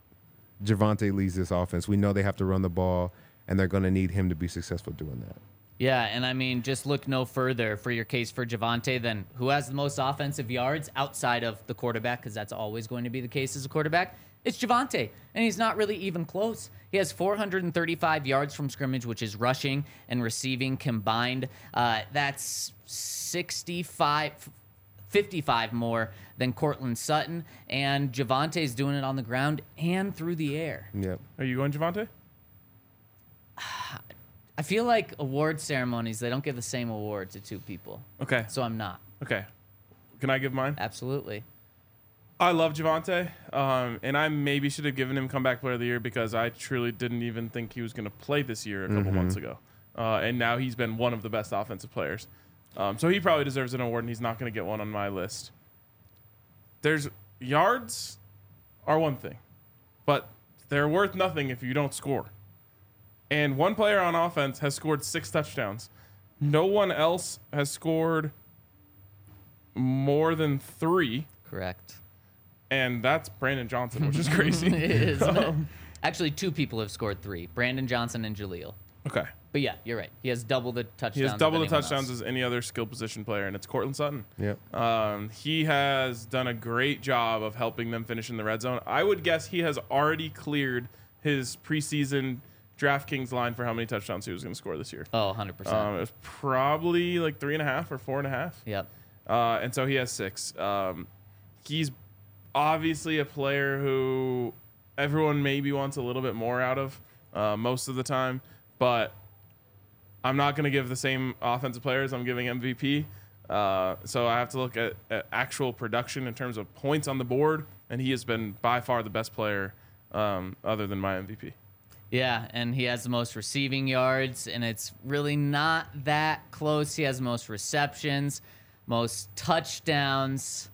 Javonte leads this offense. We know they have to run the ball, and they're going to need him to be successful doing that. Yeah, and I mean, just look no further for your case for Javonte than who has the most offensive yards outside of the quarterback, because that's always going to be the case as a quarterback. It's Javonte, and he's not really even close. He has four hundred thirty-five yards from scrimmage, which is rushing and receiving combined. Uh, that's sixty-five, fifty-five more than Cortland Sutton, and Javonte's doing it on the ground and through the air. Yep. Are you going Javonte? I feel like award ceremonies, they don't give the same award to two people. Okay. So I'm not. Okay. Can I give mine? Absolutely. I love Javonte, um, and I maybe should have given him comeback player of the year because I truly didn't even think he was going to play this year a couple Mm-hmm. months ago. Uh, and now he's been one of the best offensive players. Um, so he probably deserves an award, and he's not going to get one on my list. There's yards are one thing, but they're worth nothing if you don't score. And one player on offense has scored six touchdowns. No one else has scored more than three, Correct. and that's Brandon Johnson, which is crazy. It is. Actually, two people have scored three, Brandon Johnson and Jaleel. Okay. But yeah, you're right. He has double the touchdowns. He has double the of anyone touchdowns else. as any other skill position player, and it's Cortland Sutton. Yep. Um, he has done a great job of helping them finish in the red zone. I would guess he has already cleared his preseason DraftKings line for how many touchdowns he was going to score this year. Oh, one hundred percent. Um, it was probably like three and a half or four and a half. Yep. Uh, and so he has six. Um, he's obviously a player who everyone maybe wants a little bit more out of uh, most of the time, but I'm not going to give the same offensive players I'm giving M V P. Uh, so I have to look at, at actual production in terms of points on the board, and he has been by far the best player um, other than my M V P. Yeah, and he has the most receiving yards, and it's really not that close. He has the most receptions, most touchdowns.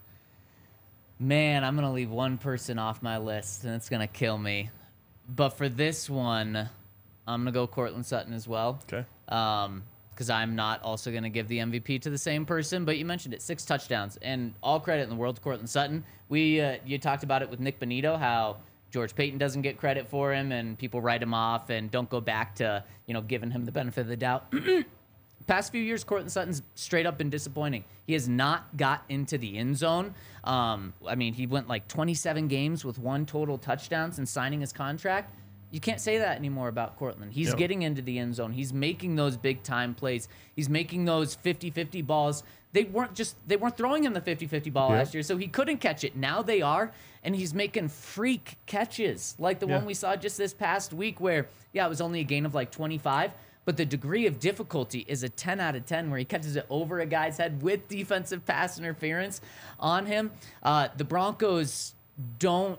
Man, I'm going to leave one person off my list, and it's going to kill me. But for this one, I'm going to go Cortland Sutton as well. Okay. Um, because I'm not also going to give the M V P to the same person, but you mentioned it, six touchdowns, and all credit in the world to Cortland Sutton. We uh, you talked about it with Nick Bonito, how George Payton doesn't get credit for him, and people write him off and don't go back to, you know, giving him the benefit of the doubt. Past few years, Cortland Sutton's straight up been disappointing. He has not got into the end zone. Um, I mean, he went like twenty-seven games with one total touchdown since signing his contract. You can't say that anymore about Cortland. He's Yep. getting into the end zone. He's making those big time plays. He's making those fifty-fifty balls. They weren't just they weren't throwing him the fifty-fifty ball Yep. last year, so he couldn't catch it. Now they are, and he's making freak catches like the Yeah. one we saw just this past week where, yeah, it was only a gain of like twenty-five, but the degree of difficulty is a ten out of ten where he catches it over a guy's head with defensive pass interference on him. Uh, the Broncos don't...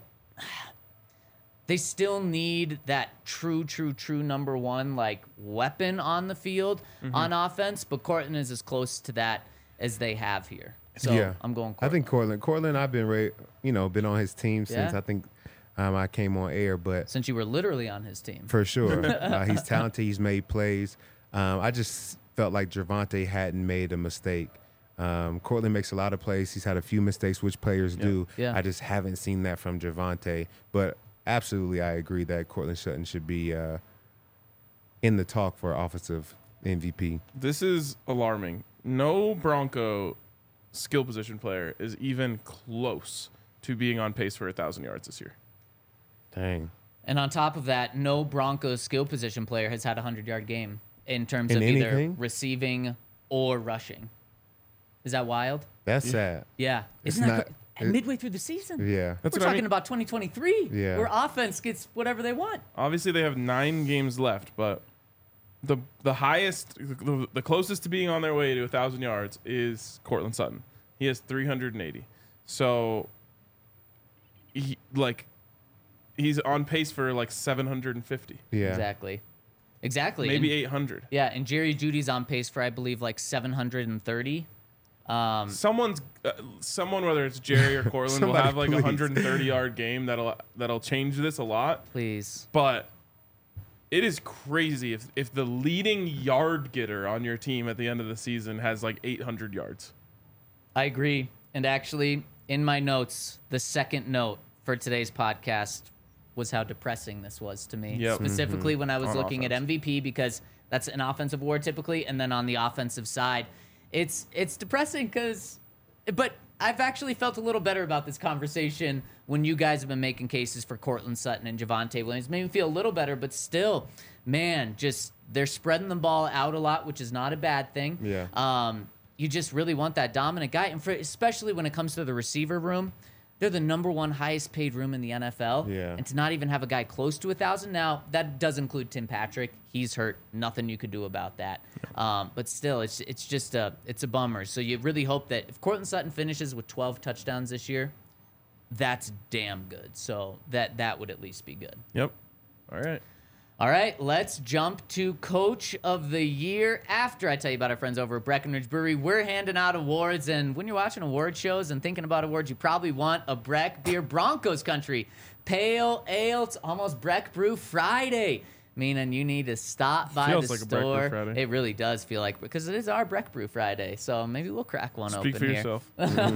They still need that true, true, true number one like weapon on the field Mm-hmm. on offense, but Cortland is as close to that as they have here. So yeah. I'm going I Cortland. think Cortland. Cortland, I've been, ra- you know, been on his team since Yeah. I think um, I came on air, but Since you were literally on his team. for sure, uh, he's talented. He's made plays. Um, I just felt like Javonte hadn't made a mistake. Um, Cortland makes a lot of plays. He's had a few mistakes, which players do. Yeah. I just haven't seen that from Javonte. But absolutely, I agree that Cortland Sutton should be uh, in the talk for offensive M V P. This is alarming. No Bronco skill position player is even close to being on pace for a thousand yards this year. Dang. And on top of that, no Broncos skill position player has had a hundred-yard game in terms In of either anything? receiving or rushing. Is that wild? That's sad. Yeah. It's Isn't that not- cra- and it- midway through the season? Yeah. That's We're what I talking mean. about twenty twenty-three, Yeah. where offense gets whatever they want. Obviously, they have nine games left, but the the highest, the, the closest to being on their way to a thousand yards is Cortland Sutton. He has three hundred eighty. So, he, like, he's on pace for like seven hundred fifty, Yeah. Exactly. Exactly. maybe And- eight hundred. Yeah, and Jerry Judy's on pace for, I believe, like seven hundred thirty. Um, Someone's uh, someone, whether it's Jerry or Cortland, will Somebody have like a please. one hundred thirty yard game that'll that'll change this a lot. please. But it is crazy if if the leading yard getter on your team at the end of the season has like eight hundred yards. I agree. And actually, in my notes, the second note for today's podcast was how depressing this was to me. Yep. Specifically when I was On looking offense. at M V P, because That's an offensive award typically. And then on the offensive side, it's it's depressing because, but I've actually felt a little better about this conversation when you guys have been making cases for Cortland Sutton and Javonte Williams. It made me feel a little better, but still, man, just they're spreading the ball out a lot, which is not a bad thing. Yeah. Um, you just really want that dominant guy, and for, especially when it comes to the receiver room, they're the number one highest paid room in the N F L. Yeah. And to not even have a guy close to a thousand now, that does include Tim Patrick. He's hurt. Nothing you could do about that. Um, but still, it's it's just a it's a bummer. So you really hope that if Cortland Sutton finishes with twelve touchdowns this year, that's damn good. So that that would at least be good. Yep. All right. All right, let's jump to Coach of the Year. After I tell you about our friends over at Breckenridge Brewery, we're handing out awards. And when you're watching award shows and thinking about awards, you probably want a Breck Beer Broncos Country Pale Ale. It's almost Breck Brew Friday, meaning you need to stop by Feels the like a Breck Brew store. Friday. It really does feel like, because it is our Breck Brew Friday. So maybe we'll crack one Speak open for here. yourself.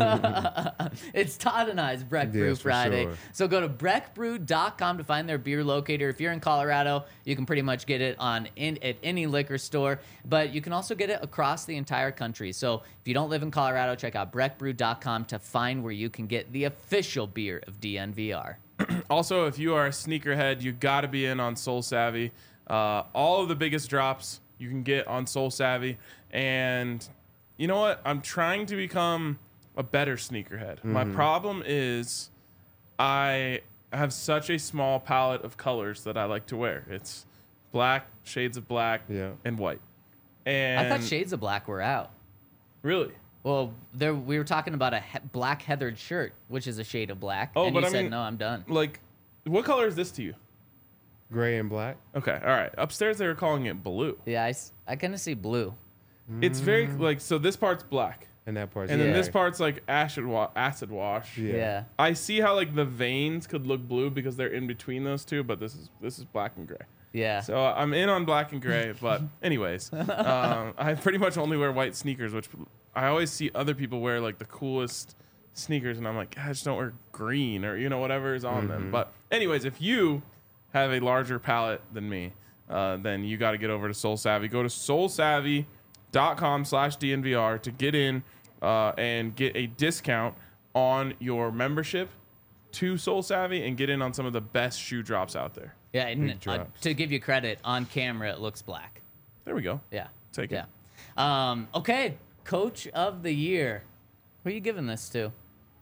It's Todd and I's Breck Brew Yes, for Friday. sure. So go to breck brew dot com to find their beer locator. If you're in Colorado, you can pretty much get it on in, at any liquor store, but you can also get it across the entire country. So if you don't live in Colorado, check out breck brew dot com to find where you can get the official beer of D N V R. Also, if you are a sneakerhead, you got to be in on Soul Savvy. Uh, all of the biggest drops you can get on Soul Savvy. And you know what? I'm trying to become a better sneakerhead. Mm-hmm. My problem is I have such a small palette of colors that I like to wear. It's black, shades of black, Yeah. and white. And I thought Shades of Black were out. Really? Well, there we were talking about a he- black heathered shirt, which is a shade of black. Oh, and but you I said, mean- no, I'm done. Like, what color is this to you? Gray and black. Okay, all right. Upstairs, they were calling it blue. Yeah, I, s- I kind of see blue. It's very, like, so this part's black. And that part. And then Yeah. this part's like acid, wa- acid wash. Yeah. Yeah. I see how like the veins could look blue because they're in between those two, but this is this is black and gray. Yeah. So uh, I'm in on black and gray, but anyways, um, I pretty much only wear white sneakers, which I always see other people wear like the coolest sneakers, and I'm like, I just don't wear green or you know whatever is on them. But anyways, if you have a larger palette than me, uh, then you got to get over to Soul Savvy. Go to soul savvy dot com slash D N V R to get in uh, and get a discount on your membership to Soul Savvy and get in on some of the best shoe drops out there. Yeah, and Big uh, drops. to give you credit, on camera it looks black. There we go. Yeah. Take it. Yeah. Um, okay, Coach of the Year. Who are you giving this to?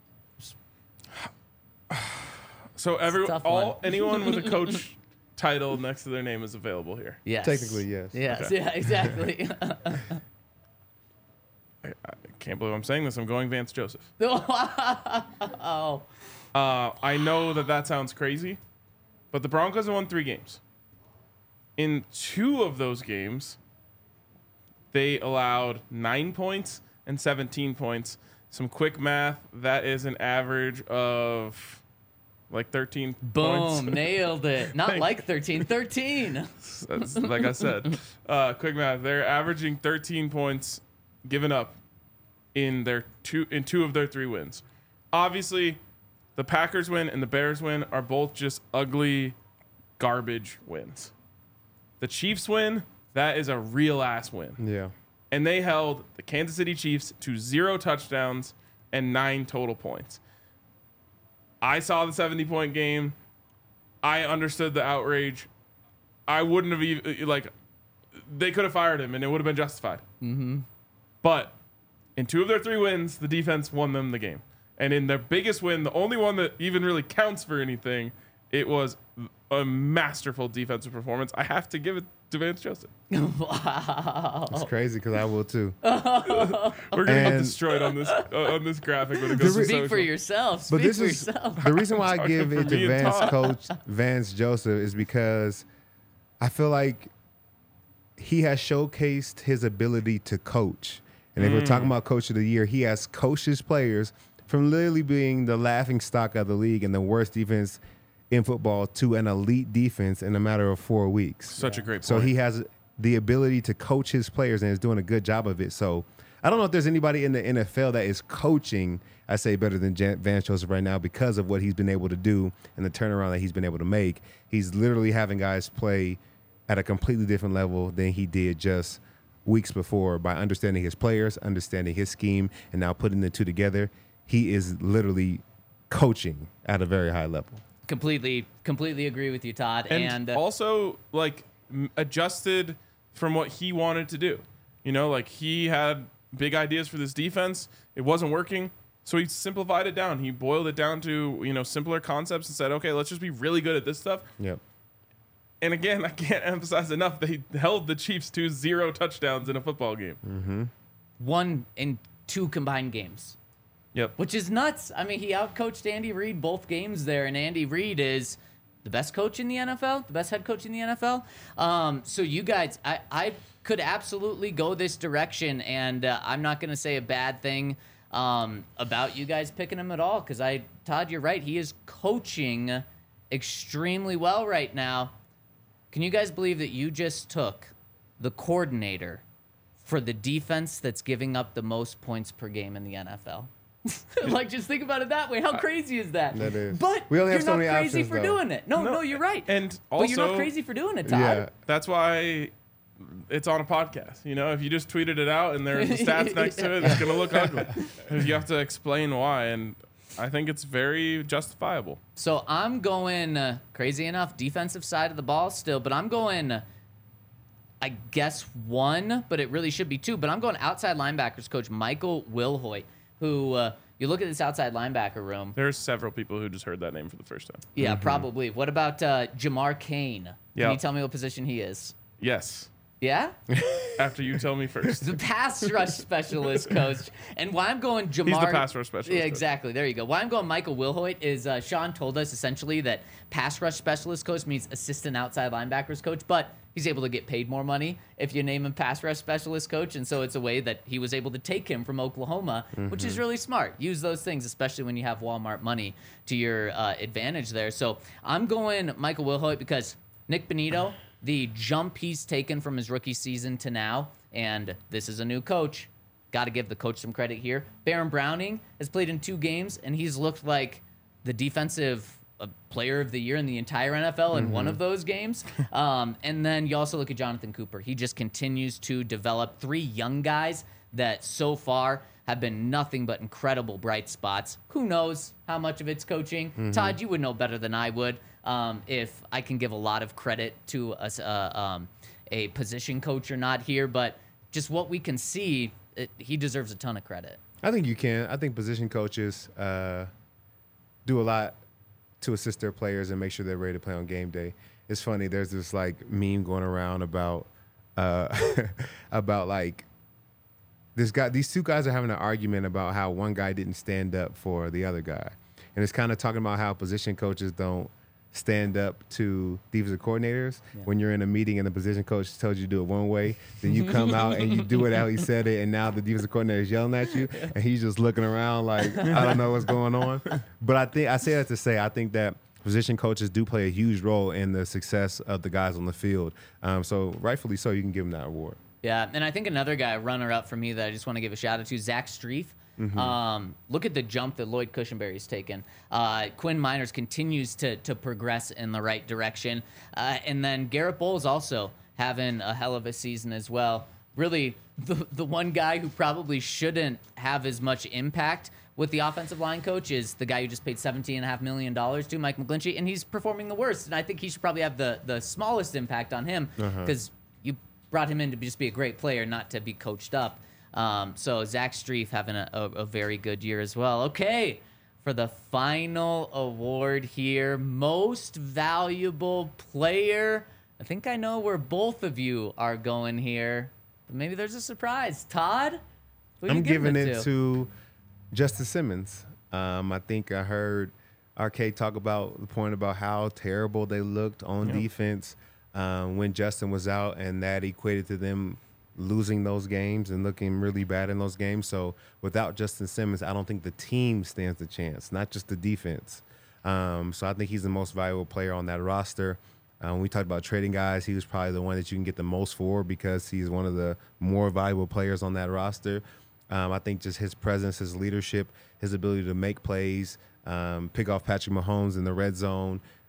So every tough all one. anyone with a coach title next to their name is available here. Yes. Technically, yes. Yes. Okay. Yeah. Exactly. I, I can't believe I'm saying this. I'm going Vance Joseph. oh. Uh, I know that that sounds crazy, but the Broncos have won three games. In two of those games, they allowed nine points and seventeen points. Some quick math, that is an average of like thirteen points. Boom! Nailed it. Not Thank- like thirteen. thirteen. That's, like I said, uh, quick math. They're averaging thirteen points given up in their two in two of their three wins. Obviously, the Packers win and the Bears win are both just ugly, garbage wins. The Chiefs win, that is a real ass win, Yeah. and they held the Kansas City Chiefs to zero touchdowns and nine total points. I saw the seventy point game. I understood the outrage. I wouldn't have even, like, they could have fired him and it would have been justified. Mm-hmm. But in two of their three wins, the defense won them the game. And in their biggest win, the only one that even really counts for anything, it was a masterful defensive performance. I have to give it to Vance Joseph. Wow. It's crazy because I will too. We're gonna get And- destroyed on this uh, on this graphic when it goes to re- Speak social. for yourself. Speak But this for is yourself. the reason why I Talking give for it me to and Vance Todd. Coach Vance Joseph is because I feel like he has showcased his ability to coach. And if we're talking about Coach of the Year, he has coached his players from literally being the laughing stock of the league and the worst defense in football to an elite defense in a matter of four weeks. Such a great point. So he has the ability to coach his players and is doing a good job of it. So I don't know if there's anybody in the N F L that is coaching, I say, better than Jan- Vance Joseph right now because of what he's been able to do and the turnaround that he's been able to make. He's literally having guys play at a completely different level than he did just weeks before by understanding his players, understanding his scheme, and now putting the two together. He is literally coaching at a very high level. Completely, completely agree with you, Todd. And, And, uh, also, like, m- adjusted from what he wanted to do. You know, like, he had big ideas for this defense. It wasn't working. So he simplified it down. He boiled it down to, you know, simpler concepts and said, okay, let's just be really good at this stuff. Yep. And again, I can't emphasize enough, they held the Chiefs to zero touchdowns in a football game. Mm-hmm. one in two combined games. Yep. Which is nuts. I mean, he outcoached Andy Reid both games there, and Andy Reid is the best coach in the N F L, the best head coach in the N F L. Um, so you guys, I, I could absolutely go this direction, and uh, I'm not going to say a bad thing um, about you guys picking him at all, because I, Todd, you're right. He is coaching extremely well right now. Can you guys believe that you just took the coordinator for the defense that's giving up the most points per game in the N F L? Like, just think about it that way. How crazy is that? That is. But We only you're have so not many crazy options, for though. doing it. No, no, No, you're right. And but you're not also- crazy for doing it, Todd. Yeah. That's why it's on a podcast. You know, if you just tweeted it out and there's the stats next to it, it's going to look ugly. You have to explain why. And I think it's very justifiable. So I'm going, uh, crazy enough, defensive side of the ball still, but I'm going, uh, I guess, one, but it really should be two. But I'm going outside linebackers coach Michael Wilhoit, who uh, you look at this outside linebacker room. There's several people who just heard that name for the first time. Yeah, probably. What about uh, Jamar Kane? Can Yeah. you tell me what position he is? Yes. Yeah? After you tell me first. The pass rush specialist coach. And why I'm going Jamar. He's the pass rush specialist Yeah, coach. exactly. There you go. Why I'm going Michael Wilhoit is uh, Sean told us essentially that pass rush specialist coach means assistant outside linebackers coach, but he's able to get paid more money if you name him pass rush specialist coach. And so it's a way that he was able to take him from Oklahoma, mm-hmm. which is really smart. Use those things, especially when you have Walmart money to your uh, advantage there. So I'm going Michael Wilhoit because Nick Benito, the jump he's taken from his rookie season to now, and this is a new coach. Got to give the coach some credit here. Baron Browning has played in two games, and he's looked like the defensive uh, player of the year in the entire N F L in mm-hmm. one of those games. Um, and then you also look at Jonathan Cooper. He just continues to develop three young guys that so far have been nothing but incredible bright spots. Who knows how much of it's coaching? Mm-hmm. Todd, you would know better than I would. Um, if I can give a lot of credit to a, uh, um, a position coach or not here, but just what we can see, it, he deserves a ton of credit. I think you can. I think position coaches uh, do a lot to assist their players and make sure they're ready to play on game day. It's funny. There's this like meme going around about uh, about like this guy. These two guys are having an argument about how one guy didn't stand up for the other guy, and it's kind of talking about how position coaches don't stand up to defensive coordinators. Yeah. When you're in a meeting and the position coach tells you to do it one way, then you come out and you do it how he said it, and now the defensive coordinator is yelling at you, and he's just looking around like, I don't know what's going on. But I think I say that to say I think that position coaches do play a huge role in the success of the guys on the field. Um, so rightfully so, you can give them that award. Yeah, and I think another guy, runner-up for me, that I just want to give a shout-out to, Zach Strief. Mm-hmm. Um, look at the jump that Lloyd Cushenberry's taken. Uh, Quinn Miners continues to to progress in the right direction. Uh, and then Garrett Bowles also having a hell of a season as well. Really, the, the one guy who probably shouldn't have as much impact with the offensive line coach is the guy who just paid seventeen point five million dollars to, Mike McGlinchey, and he's performing the worst. And I think he should probably have the, the smallest impact on him because uh-huh. you brought him in to just be a great player, not to be coached up. Um, so Zach Strief having a, a, a very good year as well. Okay, for the final award here, most valuable player. I think I know where both of you are going here, but maybe there's a surprise. Todd, who are you I'm giving it, it to? to Justice Simmons. Um, I think I heard R K talk about the point about how terrible they looked on yep. defense um, when Justin was out, and that equated to them losing those games and looking really bad in those games. So without Justin Simmons, I don't think the team stands a chance, not just the defense. Um, so I think he's the most valuable player on that roster. Uh, when we talked about trading guys, he was probably the one that you can get the most for because he's one of the more valuable players on that roster. Um, I think just his presence, his leadership, his ability to make plays, um, pick off Patrick Mahomes in the red zone,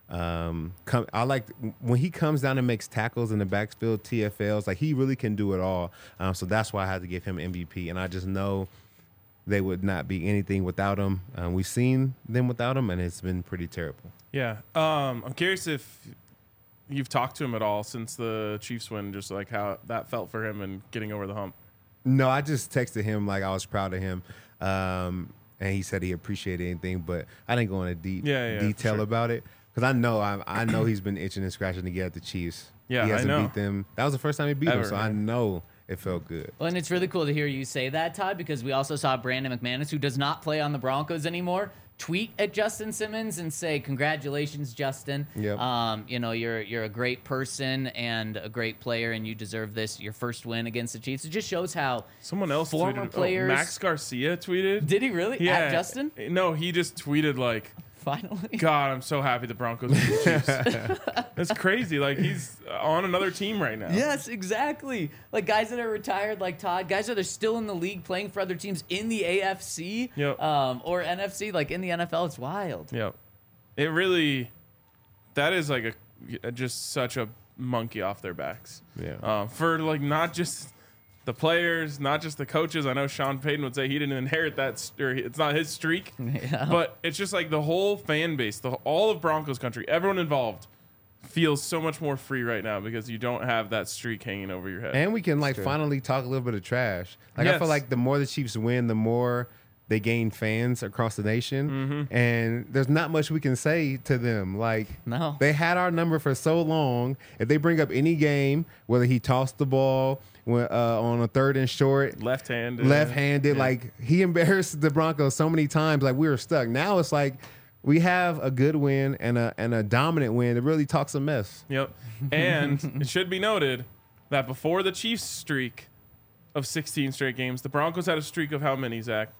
Um, come, I like when he comes down and makes tackles in the backfield, T F Ls. Like he really can do it all. Um, so that's why I had to give him M V P. And I just know they would not be anything without him. Um, we've seen them without him, and it's been pretty terrible. Yeah. Um, I'm curious if you've talked to him at all since the Chiefs win, just like how that felt for him and getting over the hump. No, I just texted him like I was proud of him. Um, and he said he appreciated anything, but I didn't go into deep Yeah, yeah, detail sure. about it. Because I know I, I know he's been itching and scratching to get at the Chiefs. Yeah, he I hasn't know. beat them. That was the first time he beat Ever, them, so yeah. I know it felt good. Well, and it's really cool to hear you say that, Todd, because we also saw Brandon McManus, who does not play on the Broncos anymore, tweet at Justin Simmons and say, "Congratulations, Justin. Yep. Um, you know, you're you're a great person and a great player, and you deserve this. Your first win against the Chiefs." It just shows how Someone else former tweeted. players. Oh, Max Garcia tweeted. Did he really? yeah. At Justin? No, he just tweeted like, Finally. God, I'm so happy the Broncos beat the Chiefs. That's crazy. Like he's on another team right now. Yes, exactly. Like guys that are retired, like Todd, guys that are still in the league playing for other teams in the A F C Yep. um, or N F C, like in the N F L. It's wild. Yeah. It really, that is like a just such a monkey off their backs. Yeah. Um, for like not just the players, not just the coaches. I know Sean Payton would say he didn't inherit that, st- or it's not his streak. Yeah. But it's just like the whole fan base, the all of Broncos country, everyone involved feels so much more free right now because you don't have that streak hanging over your head. And we can like finally talk a little bit of trash. Like I Yes. feel like the more the Chiefs win, the more they gain fans across the nation. Mm-hmm. And there's not much we can say to them. Like No. they had our number for so long. If they bring up any game, whether he tossed the ball when, uh, on a third and short, Left-handed. left-handed, Yeah. like he embarrassed the Broncos so many times. Like we were stuck. Now it's like we have a good win and a and a dominant win. It really talks a mess. Yep. And it should be noted that before the Chiefs streak of sixteen straight games, the Broncos had a streak of how many, Zach?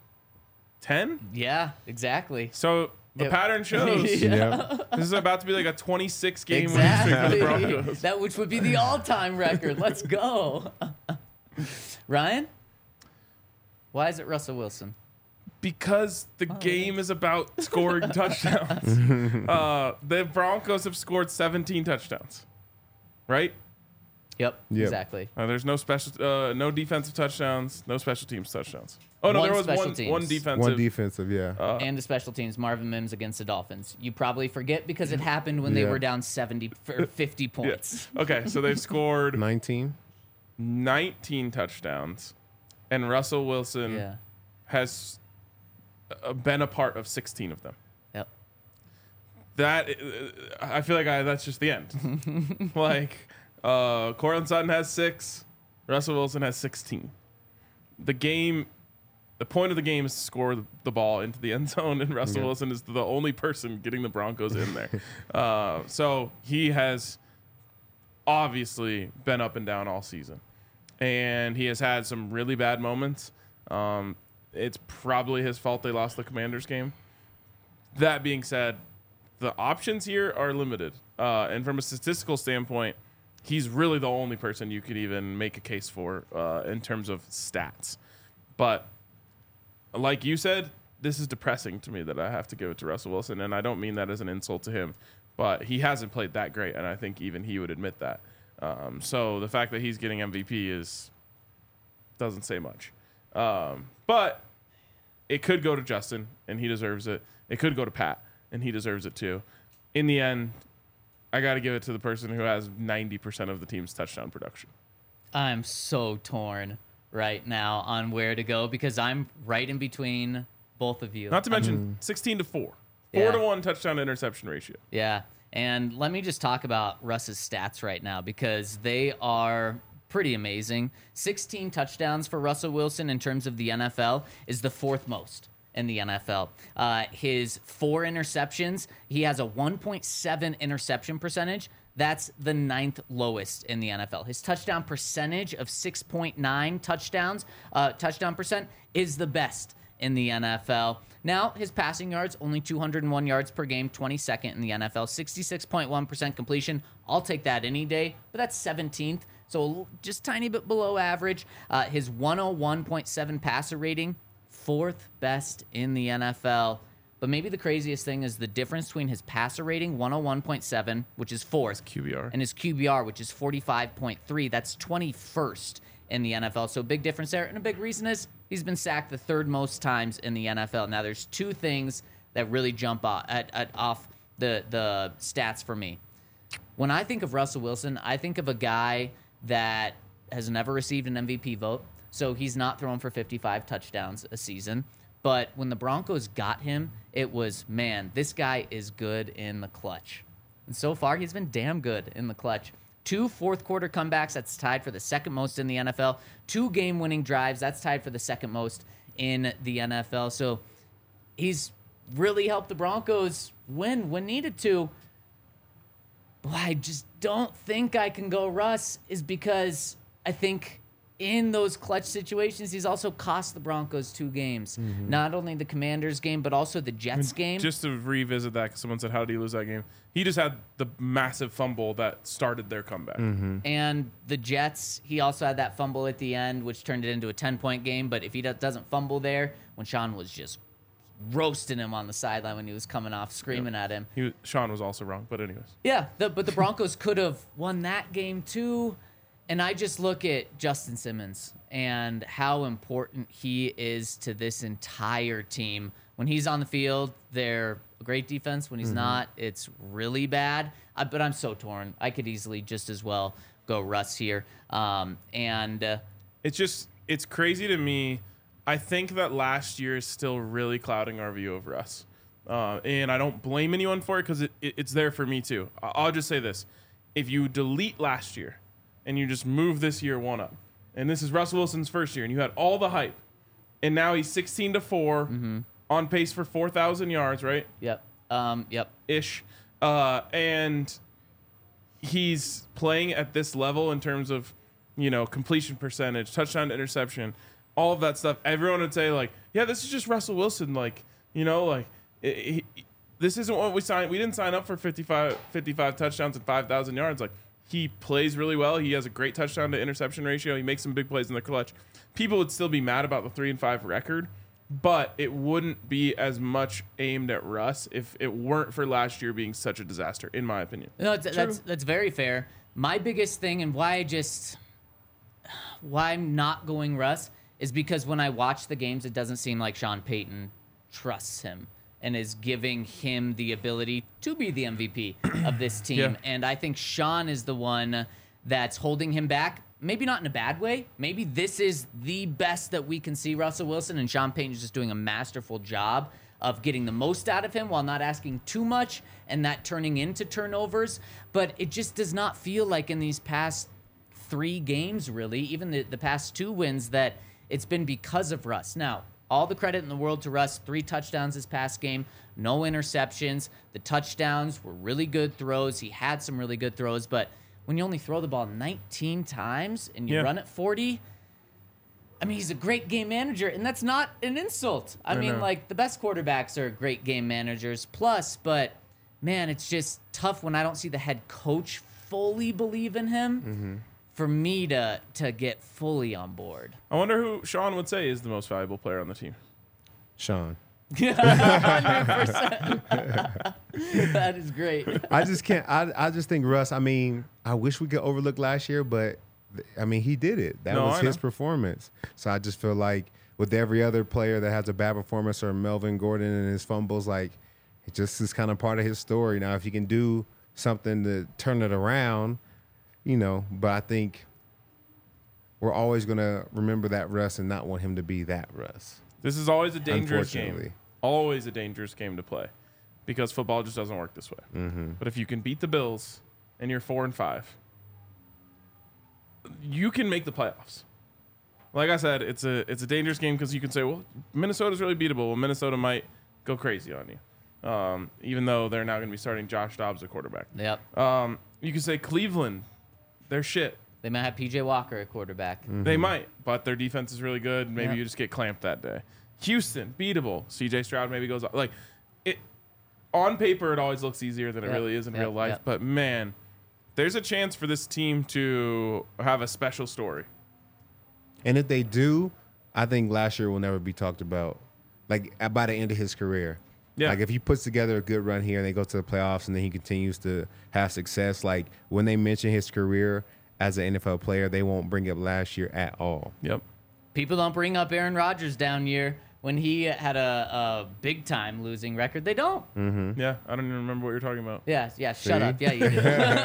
ten? Yeah, exactly. So the Yep. pattern shows Yeah. this is about to be like a twenty-six game winning streak for the Exactly. Broncos. That which would be the all-time record. Let's go. Ryan? Why is it Russell Wilson? Because the game is about scoring touchdowns. Uh, the Broncos have scored seventeen touchdowns, right? Yep, Yep. exactly. Uh, there's no special, uh, no defensive touchdowns, no special teams touchdowns. Oh no, One there was special one, teams. one defensive. One defensive, yeah. Uh, And the special teams, Marvin Mims against the Dolphins. You probably forget because it happened when they Yeah. were down seventy or fifty yeah. points. Okay, so they've scored nineteen. nineteen touchdowns, and Russell Wilson Yeah. has uh, been a part of sixteen of them. Yep. That uh, I feel like I, that's just the end. Like uh, Cortland Sutton has six, Russell Wilson has sixteen. The game, the point of the game is to score the, the ball into the end zone, and Russell Yeah. Wilson is the only person getting the Broncos in there. uh, so he has obviously been up and down all season, and he has had some really bad moments. Um, it's probably his fault they lost the Commanders game. That being said, the options here are limited. Uh, and from a statistical standpoint, he's really the only person you could even make a case for uh, in terms of stats. But like you said, this is depressing to me that I have to give it to Russell Wilson. And I don't mean that as an insult to him, but he hasn't played that great. And I think even he would admit that. Um, so the fact that he's getting M V P is doesn't say much. Um, but it could go to Justin, and he deserves it. It could go to Pat, and he deserves it too. In the end, I got to give it to the person who has ninety percent of the team's touchdown production. I'm so torn right now on where to go because I'm right in between both of you. Not to mention sixteen to four. four Yeah. to one touchdown to interception ratio. Yeah. And let me just talk about Russ's stats right now because they are pretty amazing. sixteen touchdowns for Russell Wilson in terms of the N F L is the fourth most in the N F L. Uh, his four interceptions, he has a one point seven interception percentage. That's the ninth lowest in the N F L. His touchdown percentage of six point nine touchdowns, uh, touchdown percent, is the best in the N F L. Now, his passing yards, only two hundred one yards per game, twenty-second in the N F L, sixty-six point one percent completion. I'll take that any day, but that's seventeenth, so just tiny bit below average. Uh, his one oh one point seven passer rating, fourth best in the N F L. But maybe the craziest thing is the difference between his passer rating, one oh one point seven, which is fourth, Q B R, and his Q B R, which is forty-five point three. That's twenty-first in the N F L. So big difference there. And a big reason is he's been sacked the third most times in the N F L. Now, there's two things that really jump off, at, at, off the, the stats for me. When I think of Russell Wilson, I think of a guy that has never received an M V P vote. So he's not throwing for fifty-five touchdowns a season. But when the Broncos got him, it was, man, this guy is good in the clutch. And so far, he's been damn good in the clutch. Two fourth-quarter comebacks, that's tied for the second most in the N F L. Two game-winning drives, that's tied for the second most in the N F L. So he's really helped the Broncos win when needed to. But I just don't think I can go Russ, is because I think in those clutch situations, he's also cost the Broncos two games. Mm-hmm. Not only the Commanders game, but also the Jets game. Just to revisit that, because someone said, how did he lose that game? He just had the massive fumble that started their comeback. Mm-hmm. And the Jets, he also had that fumble at the end, which turned it into a ten-point game. But if he doesn't fumble there, when Sean was just roasting him on the sideline when he was coming off, screaming yeah. at him. He was, Sean was also wrong, but anyways. Yeah, the, but the Broncos could have won that game too. And I just look at Justin Simmons and how important he is to this entire team. When he's on the field, they're a great defense. When he's mm-hmm. not, it's really bad. I, but I'm so torn. I could easily just as well go Russ here. Um, and uh, it's just, it's crazy to me. I think that last year is still really clouding our view over us. Uh, and I don't blame anyone for it, because it, it, it's there for me too. I'll just say this. If you delete last year, and you just move this year one up, and this is Russell Wilson's first year, and you had all the hype, and now he's sixteen to four, mm-hmm. on pace for four thousand yards, right? Yep. Um, yep. Ish. Uh, and he's playing at this level in terms of, you know, completion percentage, touchdown to interception, all of that stuff. Everyone would say, like, yeah, this is just Russell Wilson. Like, you know, like, it, it, this isn't what we signed. We didn't sign up for fifty-five, fifty-five touchdowns and five thousand yards. Like, he plays really well. He has a great touchdown to interception ratio. He makes some big plays in the clutch. People would still be mad about the three and five record, but it wouldn't be as much aimed at Russ if it weren't for last year being such a disaster, in my opinion. No, it's, that's that's very fair. My biggest thing, and why I just why I'm not going Russ, is because when I watch the games, it doesn't seem like Sean Payton trusts him and is giving him the ability to be the M V P of this team. Yeah. And I think Sean is the one that's holding him back. Maybe not in a bad way. Maybe this is the best that we can see Russell Wilson, and Sean Payton is just doing a masterful job of getting the most out of him while not asking too much, and that turning into turnovers. But it just does not feel like in these past three games, really, even the, the past two wins, that it's been because of Russ. Now, all the credit in the world to Russ. Three touchdowns this past game, no interceptions. The touchdowns were really good throws. He had some really good throws, but when you only throw the ball nineteen times and you yeah. run it forty, I mean, he's a great game manager, and that's not an insult. I, I mean, know. like, the best quarterbacks are great game managers plus, but, man, it's just tough when I don't see the head coach fully believe in him. Mm-hmm. For me to to get fully on board. I wonder who Sean would say is the most valuable player on the team. Sean. one hundred percent. That is great. I just can't. I, I just think Russ, I mean, I wish we could overlook last year, but, I mean, he did it. That no, was I his know. performance. So I just feel like with every other player that has a bad performance, or Melvin Gordon and his fumbles, like, it just is kind of part of his story. Now, if he can do something to turn it around, you know, but I think we're always going to remember that Russ and not want him to be that Russ. This is always a dangerous game. Always a dangerous game to play, because football just doesn't work this way. Mm-hmm. But if you can beat the Bills and you're four and five, you can make the playoffs. Like I said, it's a it's a dangerous game because you can say, well, Minnesota's really beatable. Well, Minnesota might go crazy on you, um, even though they're now going to be starting Josh Dobbs at quarterback. Yep. Um, you can say Cleveland, they're shit. They might have P J Walker at quarterback. Mm-hmm. They might, but their defense is really good. Maybe Yep. you just get clamped that day. Houston, beatable. C J Stroud maybe goes like it. On paper, it always looks easier than it Yep. really is in Yep. real life. Yep. But man, there's a chance for this team to have a special story. And if they do, I think last year will never be talked about, like, by the end of his career. Yeah. Like if he puts together a good run here and they go to the playoffs and then he continues to have success, like when they mention his career as an N F L player, they won't bring up last year at all. Yep. People don't bring up Aaron Rodgers down year when he had a, a big time losing record. They don't. Yeah, I don't even remember what you're talking about. Yeah, yeah, shut See? up. Yeah, you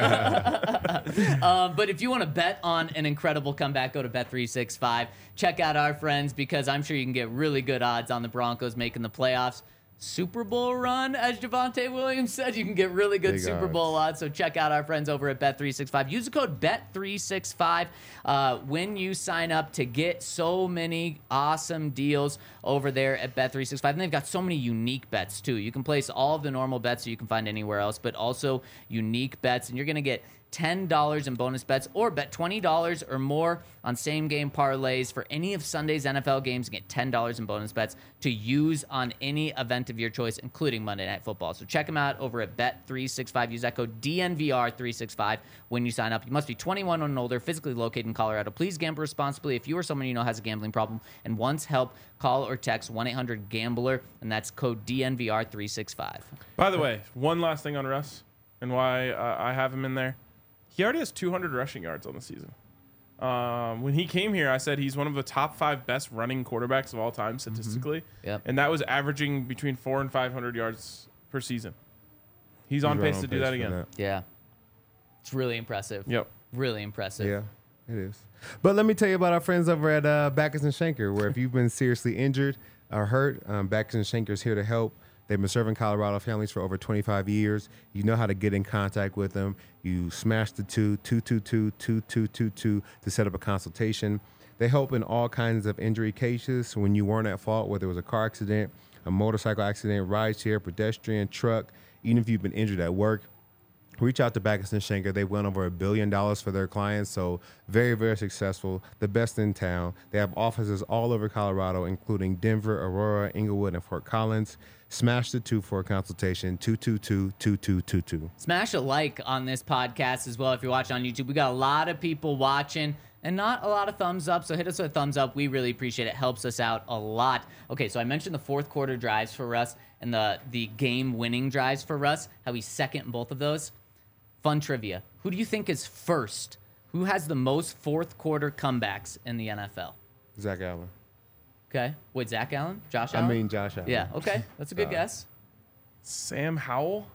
do. um, but if you want to bet on an incredible comeback, go to Bet three sixty-five. Check out our friends because I'm sure you can get really good odds on the Broncos making the playoffs. Super Bowl run, as Javonte Williams said. You can get really good Big Super odds. Bowl odds. So check out our friends over at Bet three sixty-five. Use the code Bet three sixty-five uh, when you sign up to get so many awesome deals over there at Bet three sixty-five. And they've got so many unique bets, too. You can place all of the normal bets that you can find anywhere else, but also unique bets. And you're going to get ten dollars in bonus bets or bet twenty dollars or more on same-game parlays for any of Sunday's N F L games and get ten dollars in bonus bets to use on any event of your choice, including Monday Night Football. So check them out over at Bet three sixty-five. Use that code D N V R three sixty-five when you sign up. You must be twenty-one and older, physically located in Colorado. Please gamble responsibly. If you or someone you know has a gambling problem and wants help, call or text one eight hundred gambler, and that's code D N V R three sixty-five. By the way, one last thing on Russ and why uh, I have him in there. He already has two hundred rushing yards on the season. Um, when he came here, I said he's one of the top five best running quarterbacks of all time statistically. Yep. And that was averaging between four and five hundred yards per season. He's on He's right pace to do that for again. Yeah. It's really impressive. Yep. Really impressive. Yeah, it is. But let me tell you about our friends over at uh, Backus and Schenker, where if you've been seriously injured or hurt, um, Backus and Schenker is here to help. They've been serving Colorado families for over twenty-five years. You know how to get in contact with them. You smash the two, two two two, two two two two to set up a consultation. They help in all kinds of injury cases when you weren't at fault, whether it was a car accident, a motorcycle accident, rideshare, pedestrian, truck, even if you've been injured at work. Reach out to Backus and Schenker. They've won over a billion dollars for their clients, so very, very successful. The best in town. They have offices all over Colorado, including Denver, Aurora, Inglewood, and Fort Collins. Smash the two for a consultation, two two two, two two two two. Smash a like on this podcast as well if you're watching on YouTube. We got a lot of people watching and not a lot of thumbs up, so hit us with a thumbs up. We really appreciate it. Helps us out a lot. Okay, so I mentioned the fourth quarter drives for Russ and the, the game-winning drives for Russ, how he's second in both of those. Fun trivia. Who do you think is first? Who has the most fourth quarter comebacks in the N F L? Zach Allen. Okay. Wait, Zach Allen? Josh I Allen? mean, Josh Allen. Yeah, okay. That's a good Uh, guess. Sam Howell?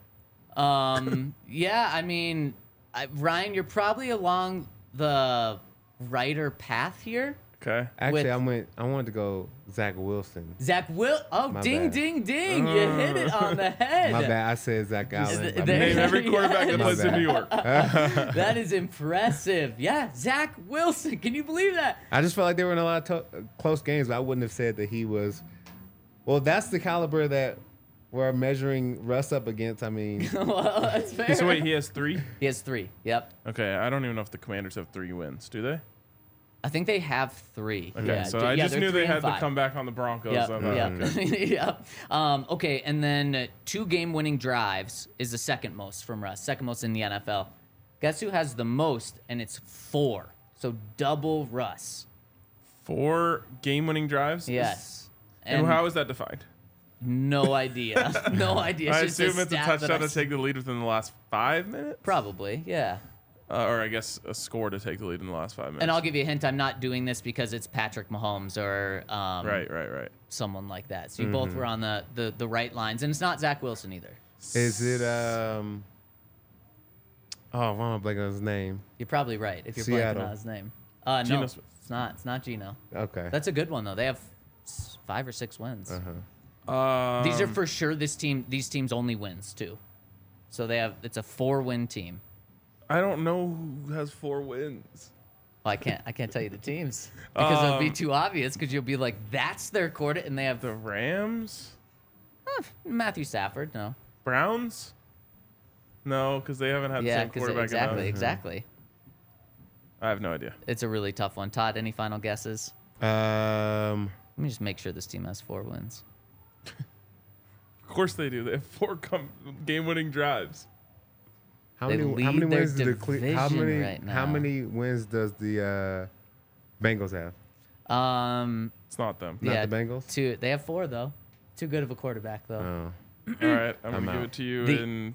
Um, yeah, I mean, I, Ryan, you're probably along the righter path here. Okay. Actually, with- I went. I wanted to go Zach Wilson. Zach Will. Oh, My ding, bad. ding, ding! You hit it on the head. My bad. I said Zach Allen. th- My there- bad. Name every quarterback that Yes. plays in My New bad. York. That is impressive. Yeah, Zach Wilson. Can you believe that? I just felt like they were in a lot of to- close games, but I wouldn't have said that he was. Well, that's the caliber that we're measuring Russ up against. I mean, Well, that's fair. So wait, he has three? He has three. Yep. Okay, I don't even know if the Commanders have three wins. Do they? I think they have three. Okay, Yeah, so d- I yeah, just they're knew three they and had to five. come back on the Broncos. Yeah, I thought, yeah, okay. yeah. Um, okay, and then uh, two game-winning drives is the second most from Russ, second most in the N F L. Guess who has the most? And it's four. So double Russ. Four game-winning drives? Yes. And, how is that defined? No idea. No idea. I It's just assume it's a stat that touchdown I to take the lead within the last five minutes? Probably, yeah. Uh, or I guess a score to take the lead in the last five minutes. And I'll give you a hint. I'm not doing this because it's Patrick Mahomes or um, Right, right, right. someone like that. So you both were on the, the, the right lines. And it's not Zach Wilson either. is it? Um. Oh, why am I blanking on his name? You're probably right if you're Seattle. blanking on his name. Uh, no, Geno Smith. it's not. It's not Geno. Okay. That's a good one though. They have s- five or six wins. uh-huh. Um, These are for sure this team. These teams only wins too. So they have. It's a four-win team. I don't know who has four wins. Well, I can't. I can't tell you the teams because it'll be Um, too obvious. Because you'll be like, that's their quarter, and they have The Rams? uh, Matthew Stafford. No. Browns? No, because they haven't had the Yeah, same because quarterback exactly, enough. exactly. I have no idea. It's a really tough one. Todd, any final guesses? Um. Let me just make sure this team has four wins. Of course they do. They have four com- game-winning drives. How They many? How lead many their wins do the Cle- How division many? right How now. many wins does the uh, Bengals have? Um, It's not them. Not yeah, the Bengals? Two. They have four though. Too good of a quarterback though. Oh. All right, I'm, I'm gonna give out. it to you The- in.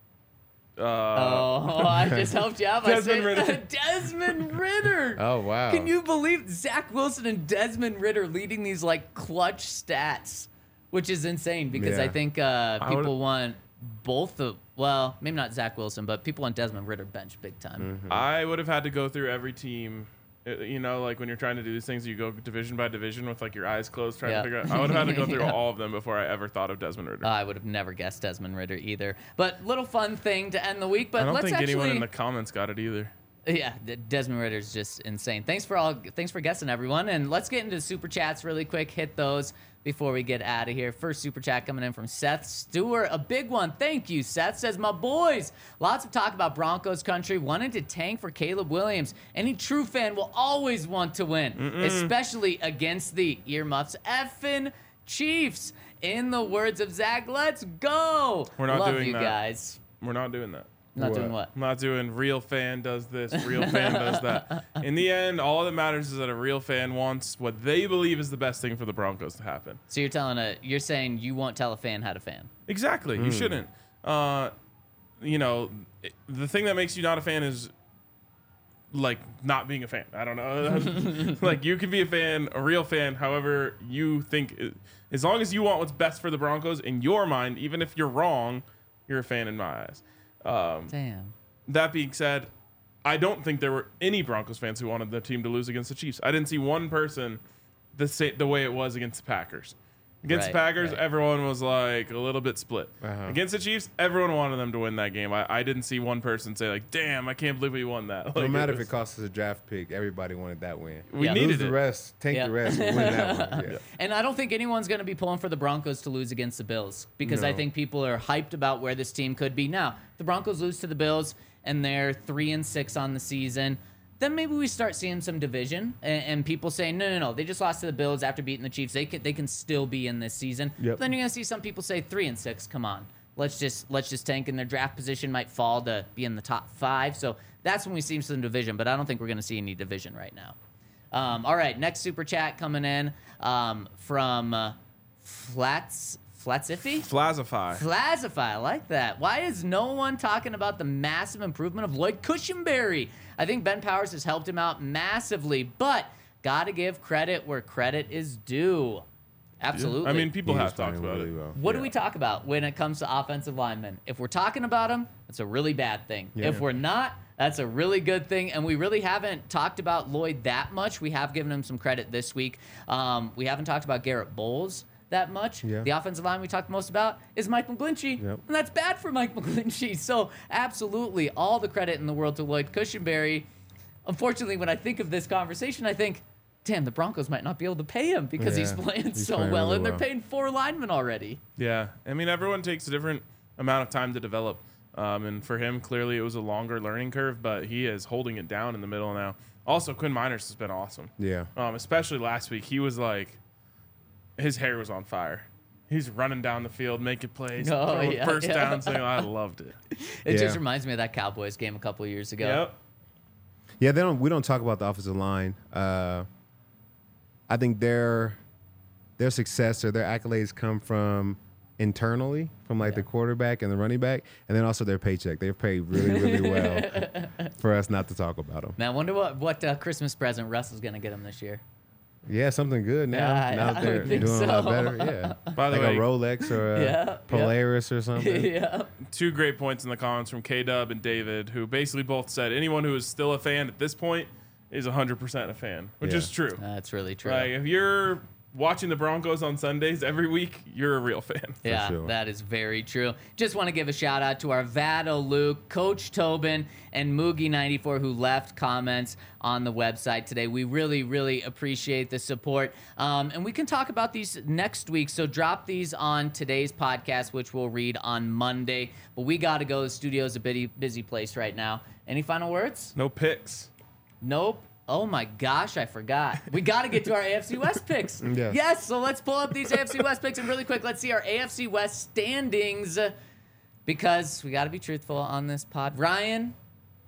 Uh, Oh, I just helped you out by Desmond saying Ritter. Desmond Ritter. Oh wow. Can you believe Zach Wilson and Desmond Ritter leading these like clutch stats, which is insane because I Yeah. think uh, I would- people want both of well, maybe not Zach Wilson, but people want Desmond Ritter bench big time. I would have had to go through every team. Uh, You know, like when you're trying to do these things, you go division by division with like your eyes closed, trying Yeah. to figure out. I would have had to go through Yeah. all of them before I ever thought of Desmond Ritter. Uh, I would have never guessed Desmond Ritter either. But little fun thing to end the week. But I don't let's think actually, anyone in the comments got it either. Yeah, D- Desmond Ritter's just insane. Thanks for all. Thanks for guessing, everyone. And let's get into super chats really quick. Hit those before we get out of here. First super chat coming in from Seth Stewart, a big one. Thank you, Seth. Says, my boys, lots of talk about Broncos country, wanting to tank for Caleb Williams. Any true fan will always want to win, especially against the earmuffs effing Chiefs. In the words of Zach, let's go. We're not Love doing you that. guys. We're not doing that. Not What? doing what? I'm not doing real fan does this, real fan does that. In the end, all that matters is that a real fan wants what they believe is the best thing for the Broncos to happen. So you're telling a, you're saying you won't tell a fan how to fan. Exactly. You shouldn't. Uh, you know, it- the thing that makes you not a fan is like not being a fan. I don't know. Like you can be a fan, a real fan, however you think. As long as you want what's best for the Broncos in your mind, even if you're wrong, you're a fan in my eyes. Um, Damn. That being said, I don't think there were any Broncos fans who wanted the team to lose against the Chiefs. I didn't see one person the sa- the way it was against the Packers. Against the Right, Packers, right. everyone was like a little bit split. Uh-huh. Against the Chiefs, everyone wanted them to win that game. I, I didn't see one person say like, "Damn, I can't believe we won that." No Like, matter was- if it costs us a draft pick, everybody wanted that win. we Yeah. needed Lose the it. rest, tank Yeah. the rest, win that one. Yeah. And I don't think anyone's going to be pulling for the Broncos to lose against the Bills because I No. think people are hyped about where this team could be. Now, if the Broncos lose to the Bills and they're three and six on the season, then maybe we start seeing some division and, and people saying, no, no, no, they just lost to the Bills after beating the Chiefs. They can, they can still be in this season. Yep. But then you're going to see some people say three and six. Come on, let's just let's just tank, and their draft position might fall to be in the top five. So that's when we see some division. But I don't think we're going to see any division right now. Um, all right, next super chat coming in um, from uh, Flats Flatsiffy. Flazify. Flazify, I like that. Why is no one talking about the massive improvement of Lloyd Cushenberry? I think Ben Powers has helped him out massively, but gotta give credit where credit is due. Absolutely. I mean, people He have was talked playing about really it. well. what do Yeah. we talk about when it comes to offensive linemen? If we're talking about them, that's a really bad thing. Yeah. If we're not, that's a really good thing. And we really haven't talked about Lloyd that much. We have given him some credit this week. Um, we haven't talked about Garrett Bowles that much. Yeah. The offensive line we talked most about is Mike McGlinchey. Yep. And that's bad for Mike McGlinchey. So absolutely all the credit in the world to Lloyd Cushenberry. Unfortunately, when I think of this conversation, I think, damn, the Broncos might not be able to pay him because he's Yeah, playing he's so playing well, really and they're well. paying four linemen already. Yeah, I mean, everyone takes a different amount of time to develop, um, and for him, clearly, it was a longer learning curve. But he is holding it down in the middle now. Also, Quinn Miners has been awesome. Yeah. Um, especially last week, he was like, his hair was on fire. He's running down the field, making plays, Oh, throwing yeah, first yeah. downs. Thing. I loved it. It Yeah. just reminds me of that Cowboys game a couple of years ago. Yep. Yeah, they don't. We don't talk about the offensive line. Uh, I think their their success or their accolades come from internally, from like Yeah. the quarterback and the running back, and then also their paycheck. They've paid really, really well for us not to talk about them. Man, I wonder what, what uh, Christmas present Russell's going to get him this year. Yeah, something good now. Yeah, now yeah, that I they're would think doing a lot so. better. Yeah, By the like way, a Rolex or a Yeah, yeah. Polaris or something. yeah. two great points in the comments from K-Dub and David, who basically both said anyone who is still a fan at this point is one hundred percent a fan, which Yeah. is true. That's really true. Like, if you're watching the Broncos on Sundays every week, you're a real fan. Yeah, sure. that is very true. Just want to give a shout out to our Vado Luke, Coach Tobin, and Moogie ninety-four who left comments on the website today. We really, really appreciate the support. Um, and we can talk about these next week. So drop these on today's podcast, which we'll read on Monday. But we got to go. The studio's a busy, busy place right now. Any final words? No picks. Nope. Oh my gosh, I forgot. We got to get to our A F C West picks. Yes. Yes, so let's pull up these A F C West picks and really quick, let's see our A F C West standings uh, because we got to be truthful on this pod. Ryan,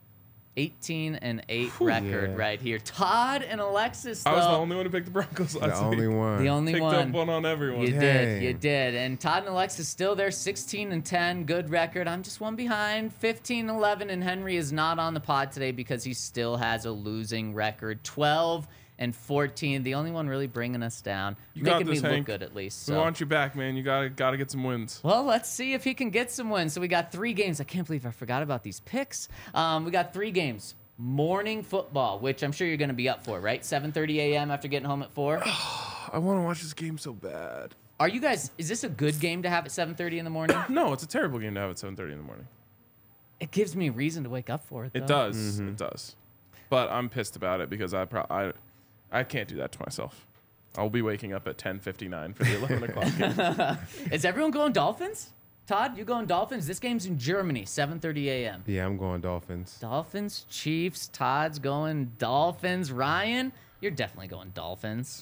eighteen and eight record Yeah. right here. Todd and Alexis, though. I was the only one who picked the Broncos The last only week. one. The only Picked one. up one on everyone. You Dang. did, you did. And Todd and Alexis still there, sixteen and ten, good record. I'm just one behind, fifteen and eleven, and Henry is not on the pod today because he still has a losing record, twelve and fourteen. The only one really bringing us down, You got making this, me Hank. look good at least. We So. want you back, man. You gotta gotta get some wins. Well, let's see if he can get some wins. So we got three games. I can't believe I forgot about these picks. Um, we got three games. Morning football, which I'm sure you're going to be up for, right? seven thirty a.m. after getting home at four. I want to watch this game so bad. Are you guys? Is this a good game to have at seven thirty in the morning? No, it's a terrible game to have at seven thirty in the morning. It gives me a reason to wake up for it. It though. does. It does. But I'm pissed about it because I pro- I I can't do that to myself. I'll be waking up at ten fifty-nine for the eleven o'clock game. Is everyone going Dolphins? Todd, you going Dolphins? This game's in Germany, seven thirty a.m. Yeah, I'm going Dolphins. Dolphins, Chiefs. Todd's going Dolphins. Ryan, you're definitely going Dolphins.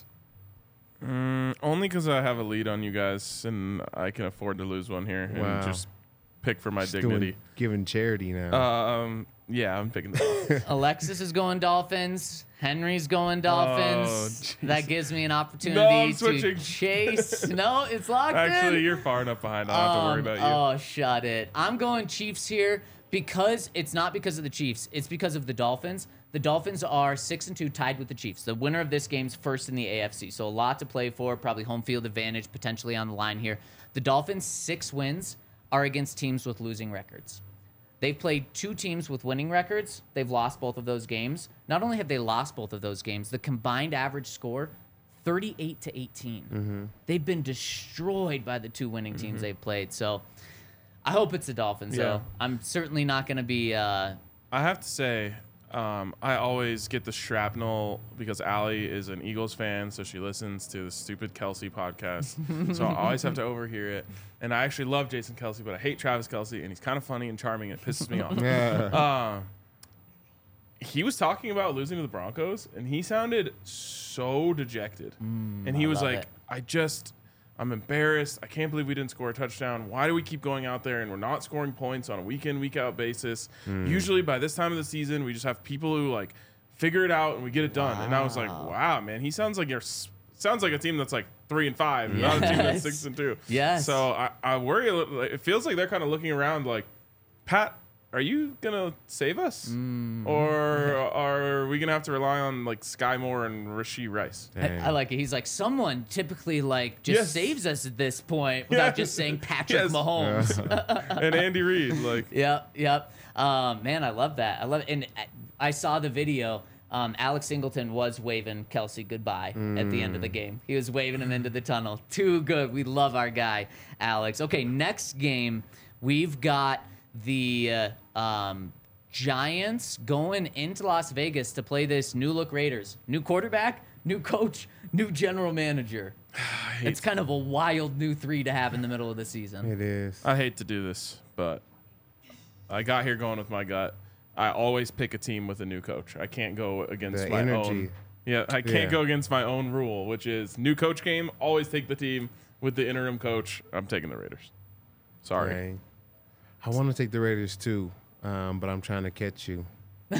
Mm, only because I have a lead on you guys and I can afford to lose one here Wow. and just pick for my Just dignity. doing, giving charity now. Um, yeah, I'm picking the Dolphins. Alexis is going Dolphins. Henry's going Dolphins. Oh, that gives me an No, opportunity I'm to switching. chase. No, it's locked in. Actually, you're far enough behind. I don't have to worry Um, about you. Oh, shut it. I'm going Chiefs here because it's not because of the Chiefs. It's because of the Dolphins. The Dolphins are six and two, tied with the Chiefs. The winner of this game's first in the A F C, so a lot to play for. Probably home field advantage potentially on the line here. The Dolphins' six wins are against teams with losing records. They've played two teams with winning records. They've lost both of those games. Not only have they lost both of those games, the combined average score, thirty-eight to eighteen. Mm-hmm. They've been destroyed by the two winning teams they've played. So I hope it's the Dolphins, Yeah. though. I'm certainly not going to be... Uh, I have to say, um, I always get the shrapnel because Allie is an Eagles fan, so she listens to the stupid Kelsey podcast. So I always have to overhear it. And I actually love Jason Kelsey, but I hate Travis Kelsey, and he's kind of funny and charming. And it pisses me off. yeah. Uh, he was talking about losing to the Broncos, and he sounded so dejected. and he I was love like, it. I just, I'm embarrassed. I can't believe we didn't score a touchdown. Why do we keep going out there and we're not scoring points on a week in, week out basis? Usually by this time of the season, we just have people who like figure it out and we get it done. And I was like, Wow. wow, man, he sounds like you're, sounds like a team that's like three and five, not a team that's Yes. six and two. Yes. So I, I worry a little. Like, it feels like they're kind of looking around like, Pat, are you gonna save us, or are we gonna have to rely on like Sky Moore and Rasheed Rice? I, Dang. I like it. He's like, someone typically like just Yes. saves us at this point without Yes. just saying Patrick Yes. Mahomes. And Andy Reid, like, Yep, yep. Um, man, I love that. I love it. And I saw the video. Um, Alex Singleton was waving Kelsey goodbye at the end of the game. He was waving him into the tunnel. Too good. We love our guy, Alex. Okay, next game, we've got the uh, um, Giants going into Las Vegas to play this new look Raiders. New quarterback, new coach, new general manager. It's kind of a wild new three to have in the middle of the season. It is. I hate to do this, but I got here going with my gut. I always pick a team with a new coach. I can't go against The my energy. own. Yeah, I can't Yeah. go against my own rule, which is new coach game. Always take the team with the interim coach. I'm taking the Raiders. Sorry. Dang. I want to take the Raiders too, um, but I'm trying to catch you. so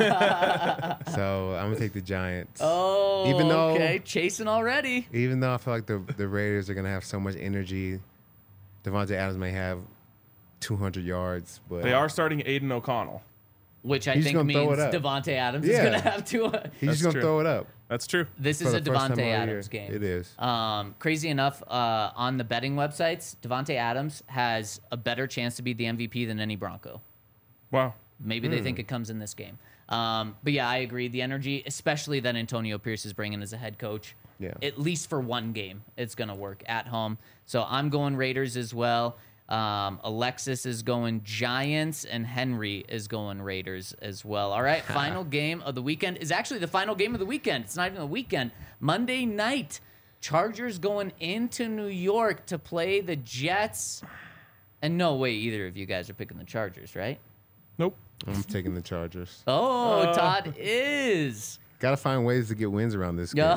I'm gonna take the Giants. Oh, Even though- okay, chasing already. Even though I feel like the the Raiders are gonna have so much energy, Devontae Adams may have two hundred yards, but They are starting Aiden O'Connell. Which I He's think gonna throw means it up. Devontae Adams Yeah. is going to have two. he's That's just gonna true. throw it up. That's true. This for is a the first time Devontae all Adams year. game. It is. Um, crazy enough, uh, on the betting websites, Devontae Adams has a better chance to be the M V P than any Bronco. Wow. Maybe they think it comes in this game. Um, but yeah, I agree. The energy, especially that Antonio Pierce is bringing as a head coach, Yeah. at least for one game, it's going to work at home. So I'm going Raiders as well. Um, Alexis is going Giants, and Henry is going Raiders as well. All right, final game of the weekend is actually the final game of the weekend. It's not even the weekend. Monday night, Chargers going into New York to play the Jets. And no way either of you guys are picking the Chargers, right? Nope. I'm taking the Chargers. Oh, Uh. Todd is. Gotta find ways to get wins around this game.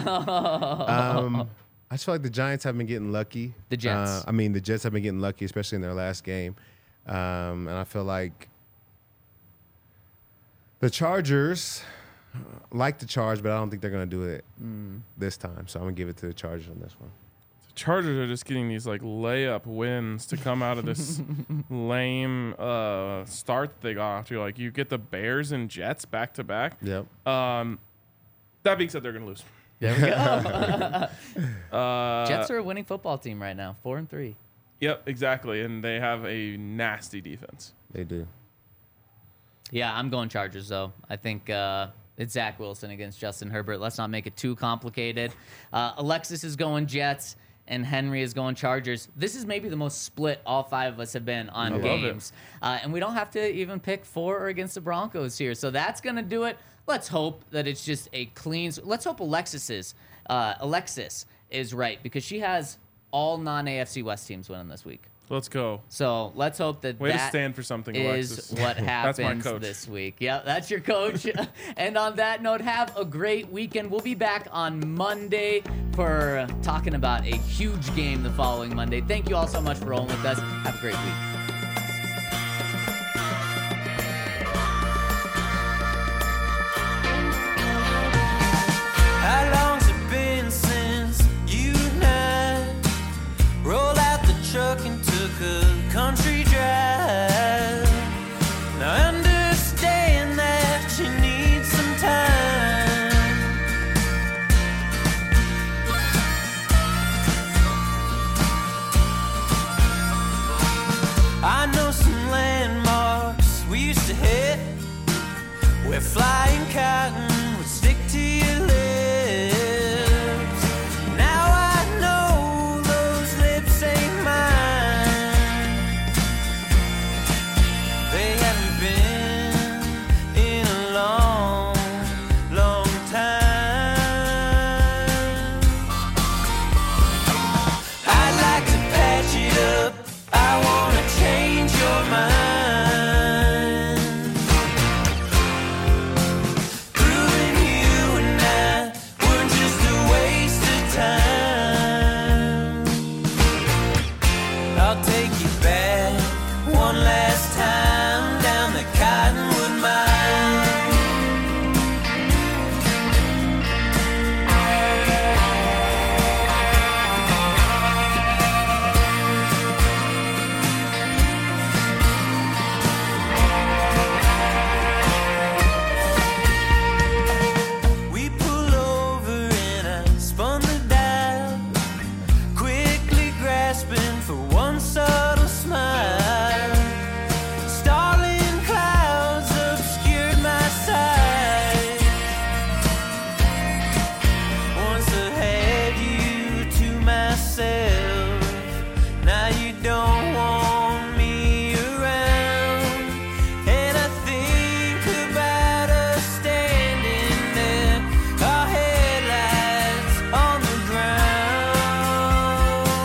um, I just feel like the Giants have been getting lucky. The Jets. Uh, I mean, the Jets have been getting lucky, especially in their last game. Um, and I feel like The Chargers uh, like to charge, but I don't think they're going to do it mm. this time. So I'm going to give it to the Chargers on this one. The Chargers are just getting these like layup wins to come out of this lame uh, start that they got off to. Like you get the Bears and Jets back to back. Yep. Um, that being said, they're going to lose. There we go. uh, Jets are a winning football team right now, four and three. Yep, exactly. And they have a nasty defense. They do. Yeah, I'm going Chargers, though. I think uh, it's Zach Wilson against Justin Herbert. Let's not make it too complicated. Uh, Alexis is going Jets, and Henry is going Chargers. This is maybe the most split all five of us have been on I games. Uh, and we don't have to even pick for or against the Broncos here. So that's going to do it. Let's hope that it's just a clean... Let's hope Alexis's, uh, Alexis is right, because she has all non-A F C West teams winning this week. Let's go. So let's hope that Way that to stand for something, is Alexis. what That's my happens coach. this week. Yeah, that's your coach. And on that note, have a great weekend. We'll be back on Monday for talking about a huge game the following Monday. Thank you all so much for rolling with us. Have a great week. How long's it been since you and I rolled out the truck and took a country drive? Now I understand that you need some time. I know some landmarks we used to hit where flying cotton would stick to your lips. Now I know those lips ain't mine. They haven't been in a long, long time. I'd like to patch it up. I wanna change your mind. Proving you and I weren't just a waste of time. I'll take you back one last time down the Cottonwood Mine. We pull over and I spun the dial, quickly grasping for one subtle smile. Starling clouds obscured my sight. Once I had you to myself, now you don't want me around. And I think about us standing there, our headlights on the ground.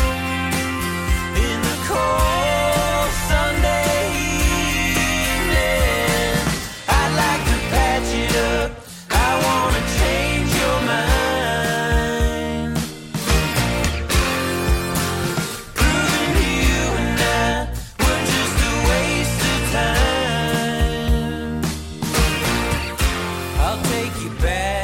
In the cold Sunday evening, I'd like to patch it up. I wanna change your mind. Proving you and I were just a waste of time. I'll take you back